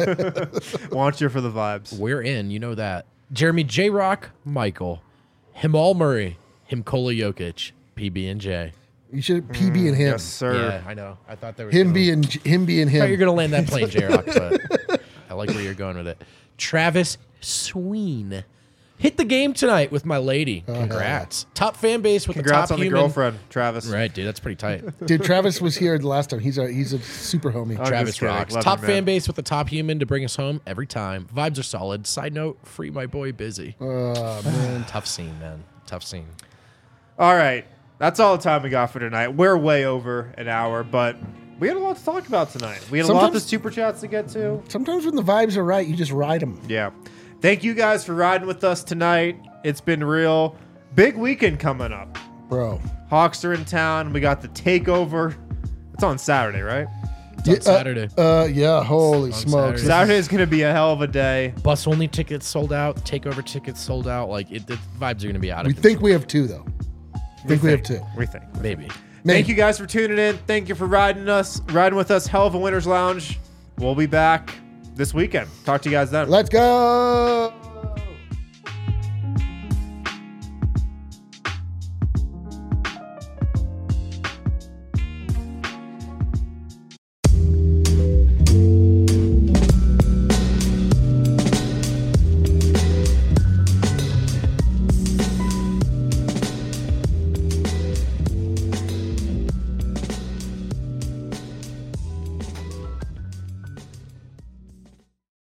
yeah. Wancho for the vibes. We're in. You know that. Jeremy J Rock, Michael, Himal Murray, Himkola Jokic, P B and J. you should P B and him. Yes, sir. Yeah, I know. I thought there was Him gonna- being him being I thought you're him. gonna land that plane, J Rock, but I like where you're going with it. Travis Sween. hit the game tonight with my lady. Congrats. Top fan base with Congrats the top on the human. girlfriend, Travis. Right, dude. That's pretty tight. Dude, Travis was here the last time. He's a he's a super homie. I'm Travis just kidding. rocks. Love Top you, man. fan base with the top human to bring us home every time. Vibes are solid. Side note, free my boy Busy. Oh, man. Tough scene, man. Tough scene. All right. That's all the time we got for tonight. We're way over an hour, but we had a lot to talk about tonight. We had a lot of Sometimes- super chats to get to. Sometimes when the vibes are right, you just ride them. Yeah. Thank you guys for riding with us tonight. It's been real. Big weekend coming up. Bro. Hawks are in town. We got the takeover. It's on Saturday, right? It's on Yeah, uh, Saturday. Uh, yeah, holy On smokes. Saturday. Saturday is going to be a hell of a day. Bus only tickets sold out. Takeover tickets sold out. Like it, the vibes are gonna be out of We control. think we have two, though. think we have two. We think. Maybe. Thank you guys for tuning in. Thank you for riding us, riding with us. Hell of a Winners Lounge. We'll be back this weekend. Talk to you guys then. Let's go.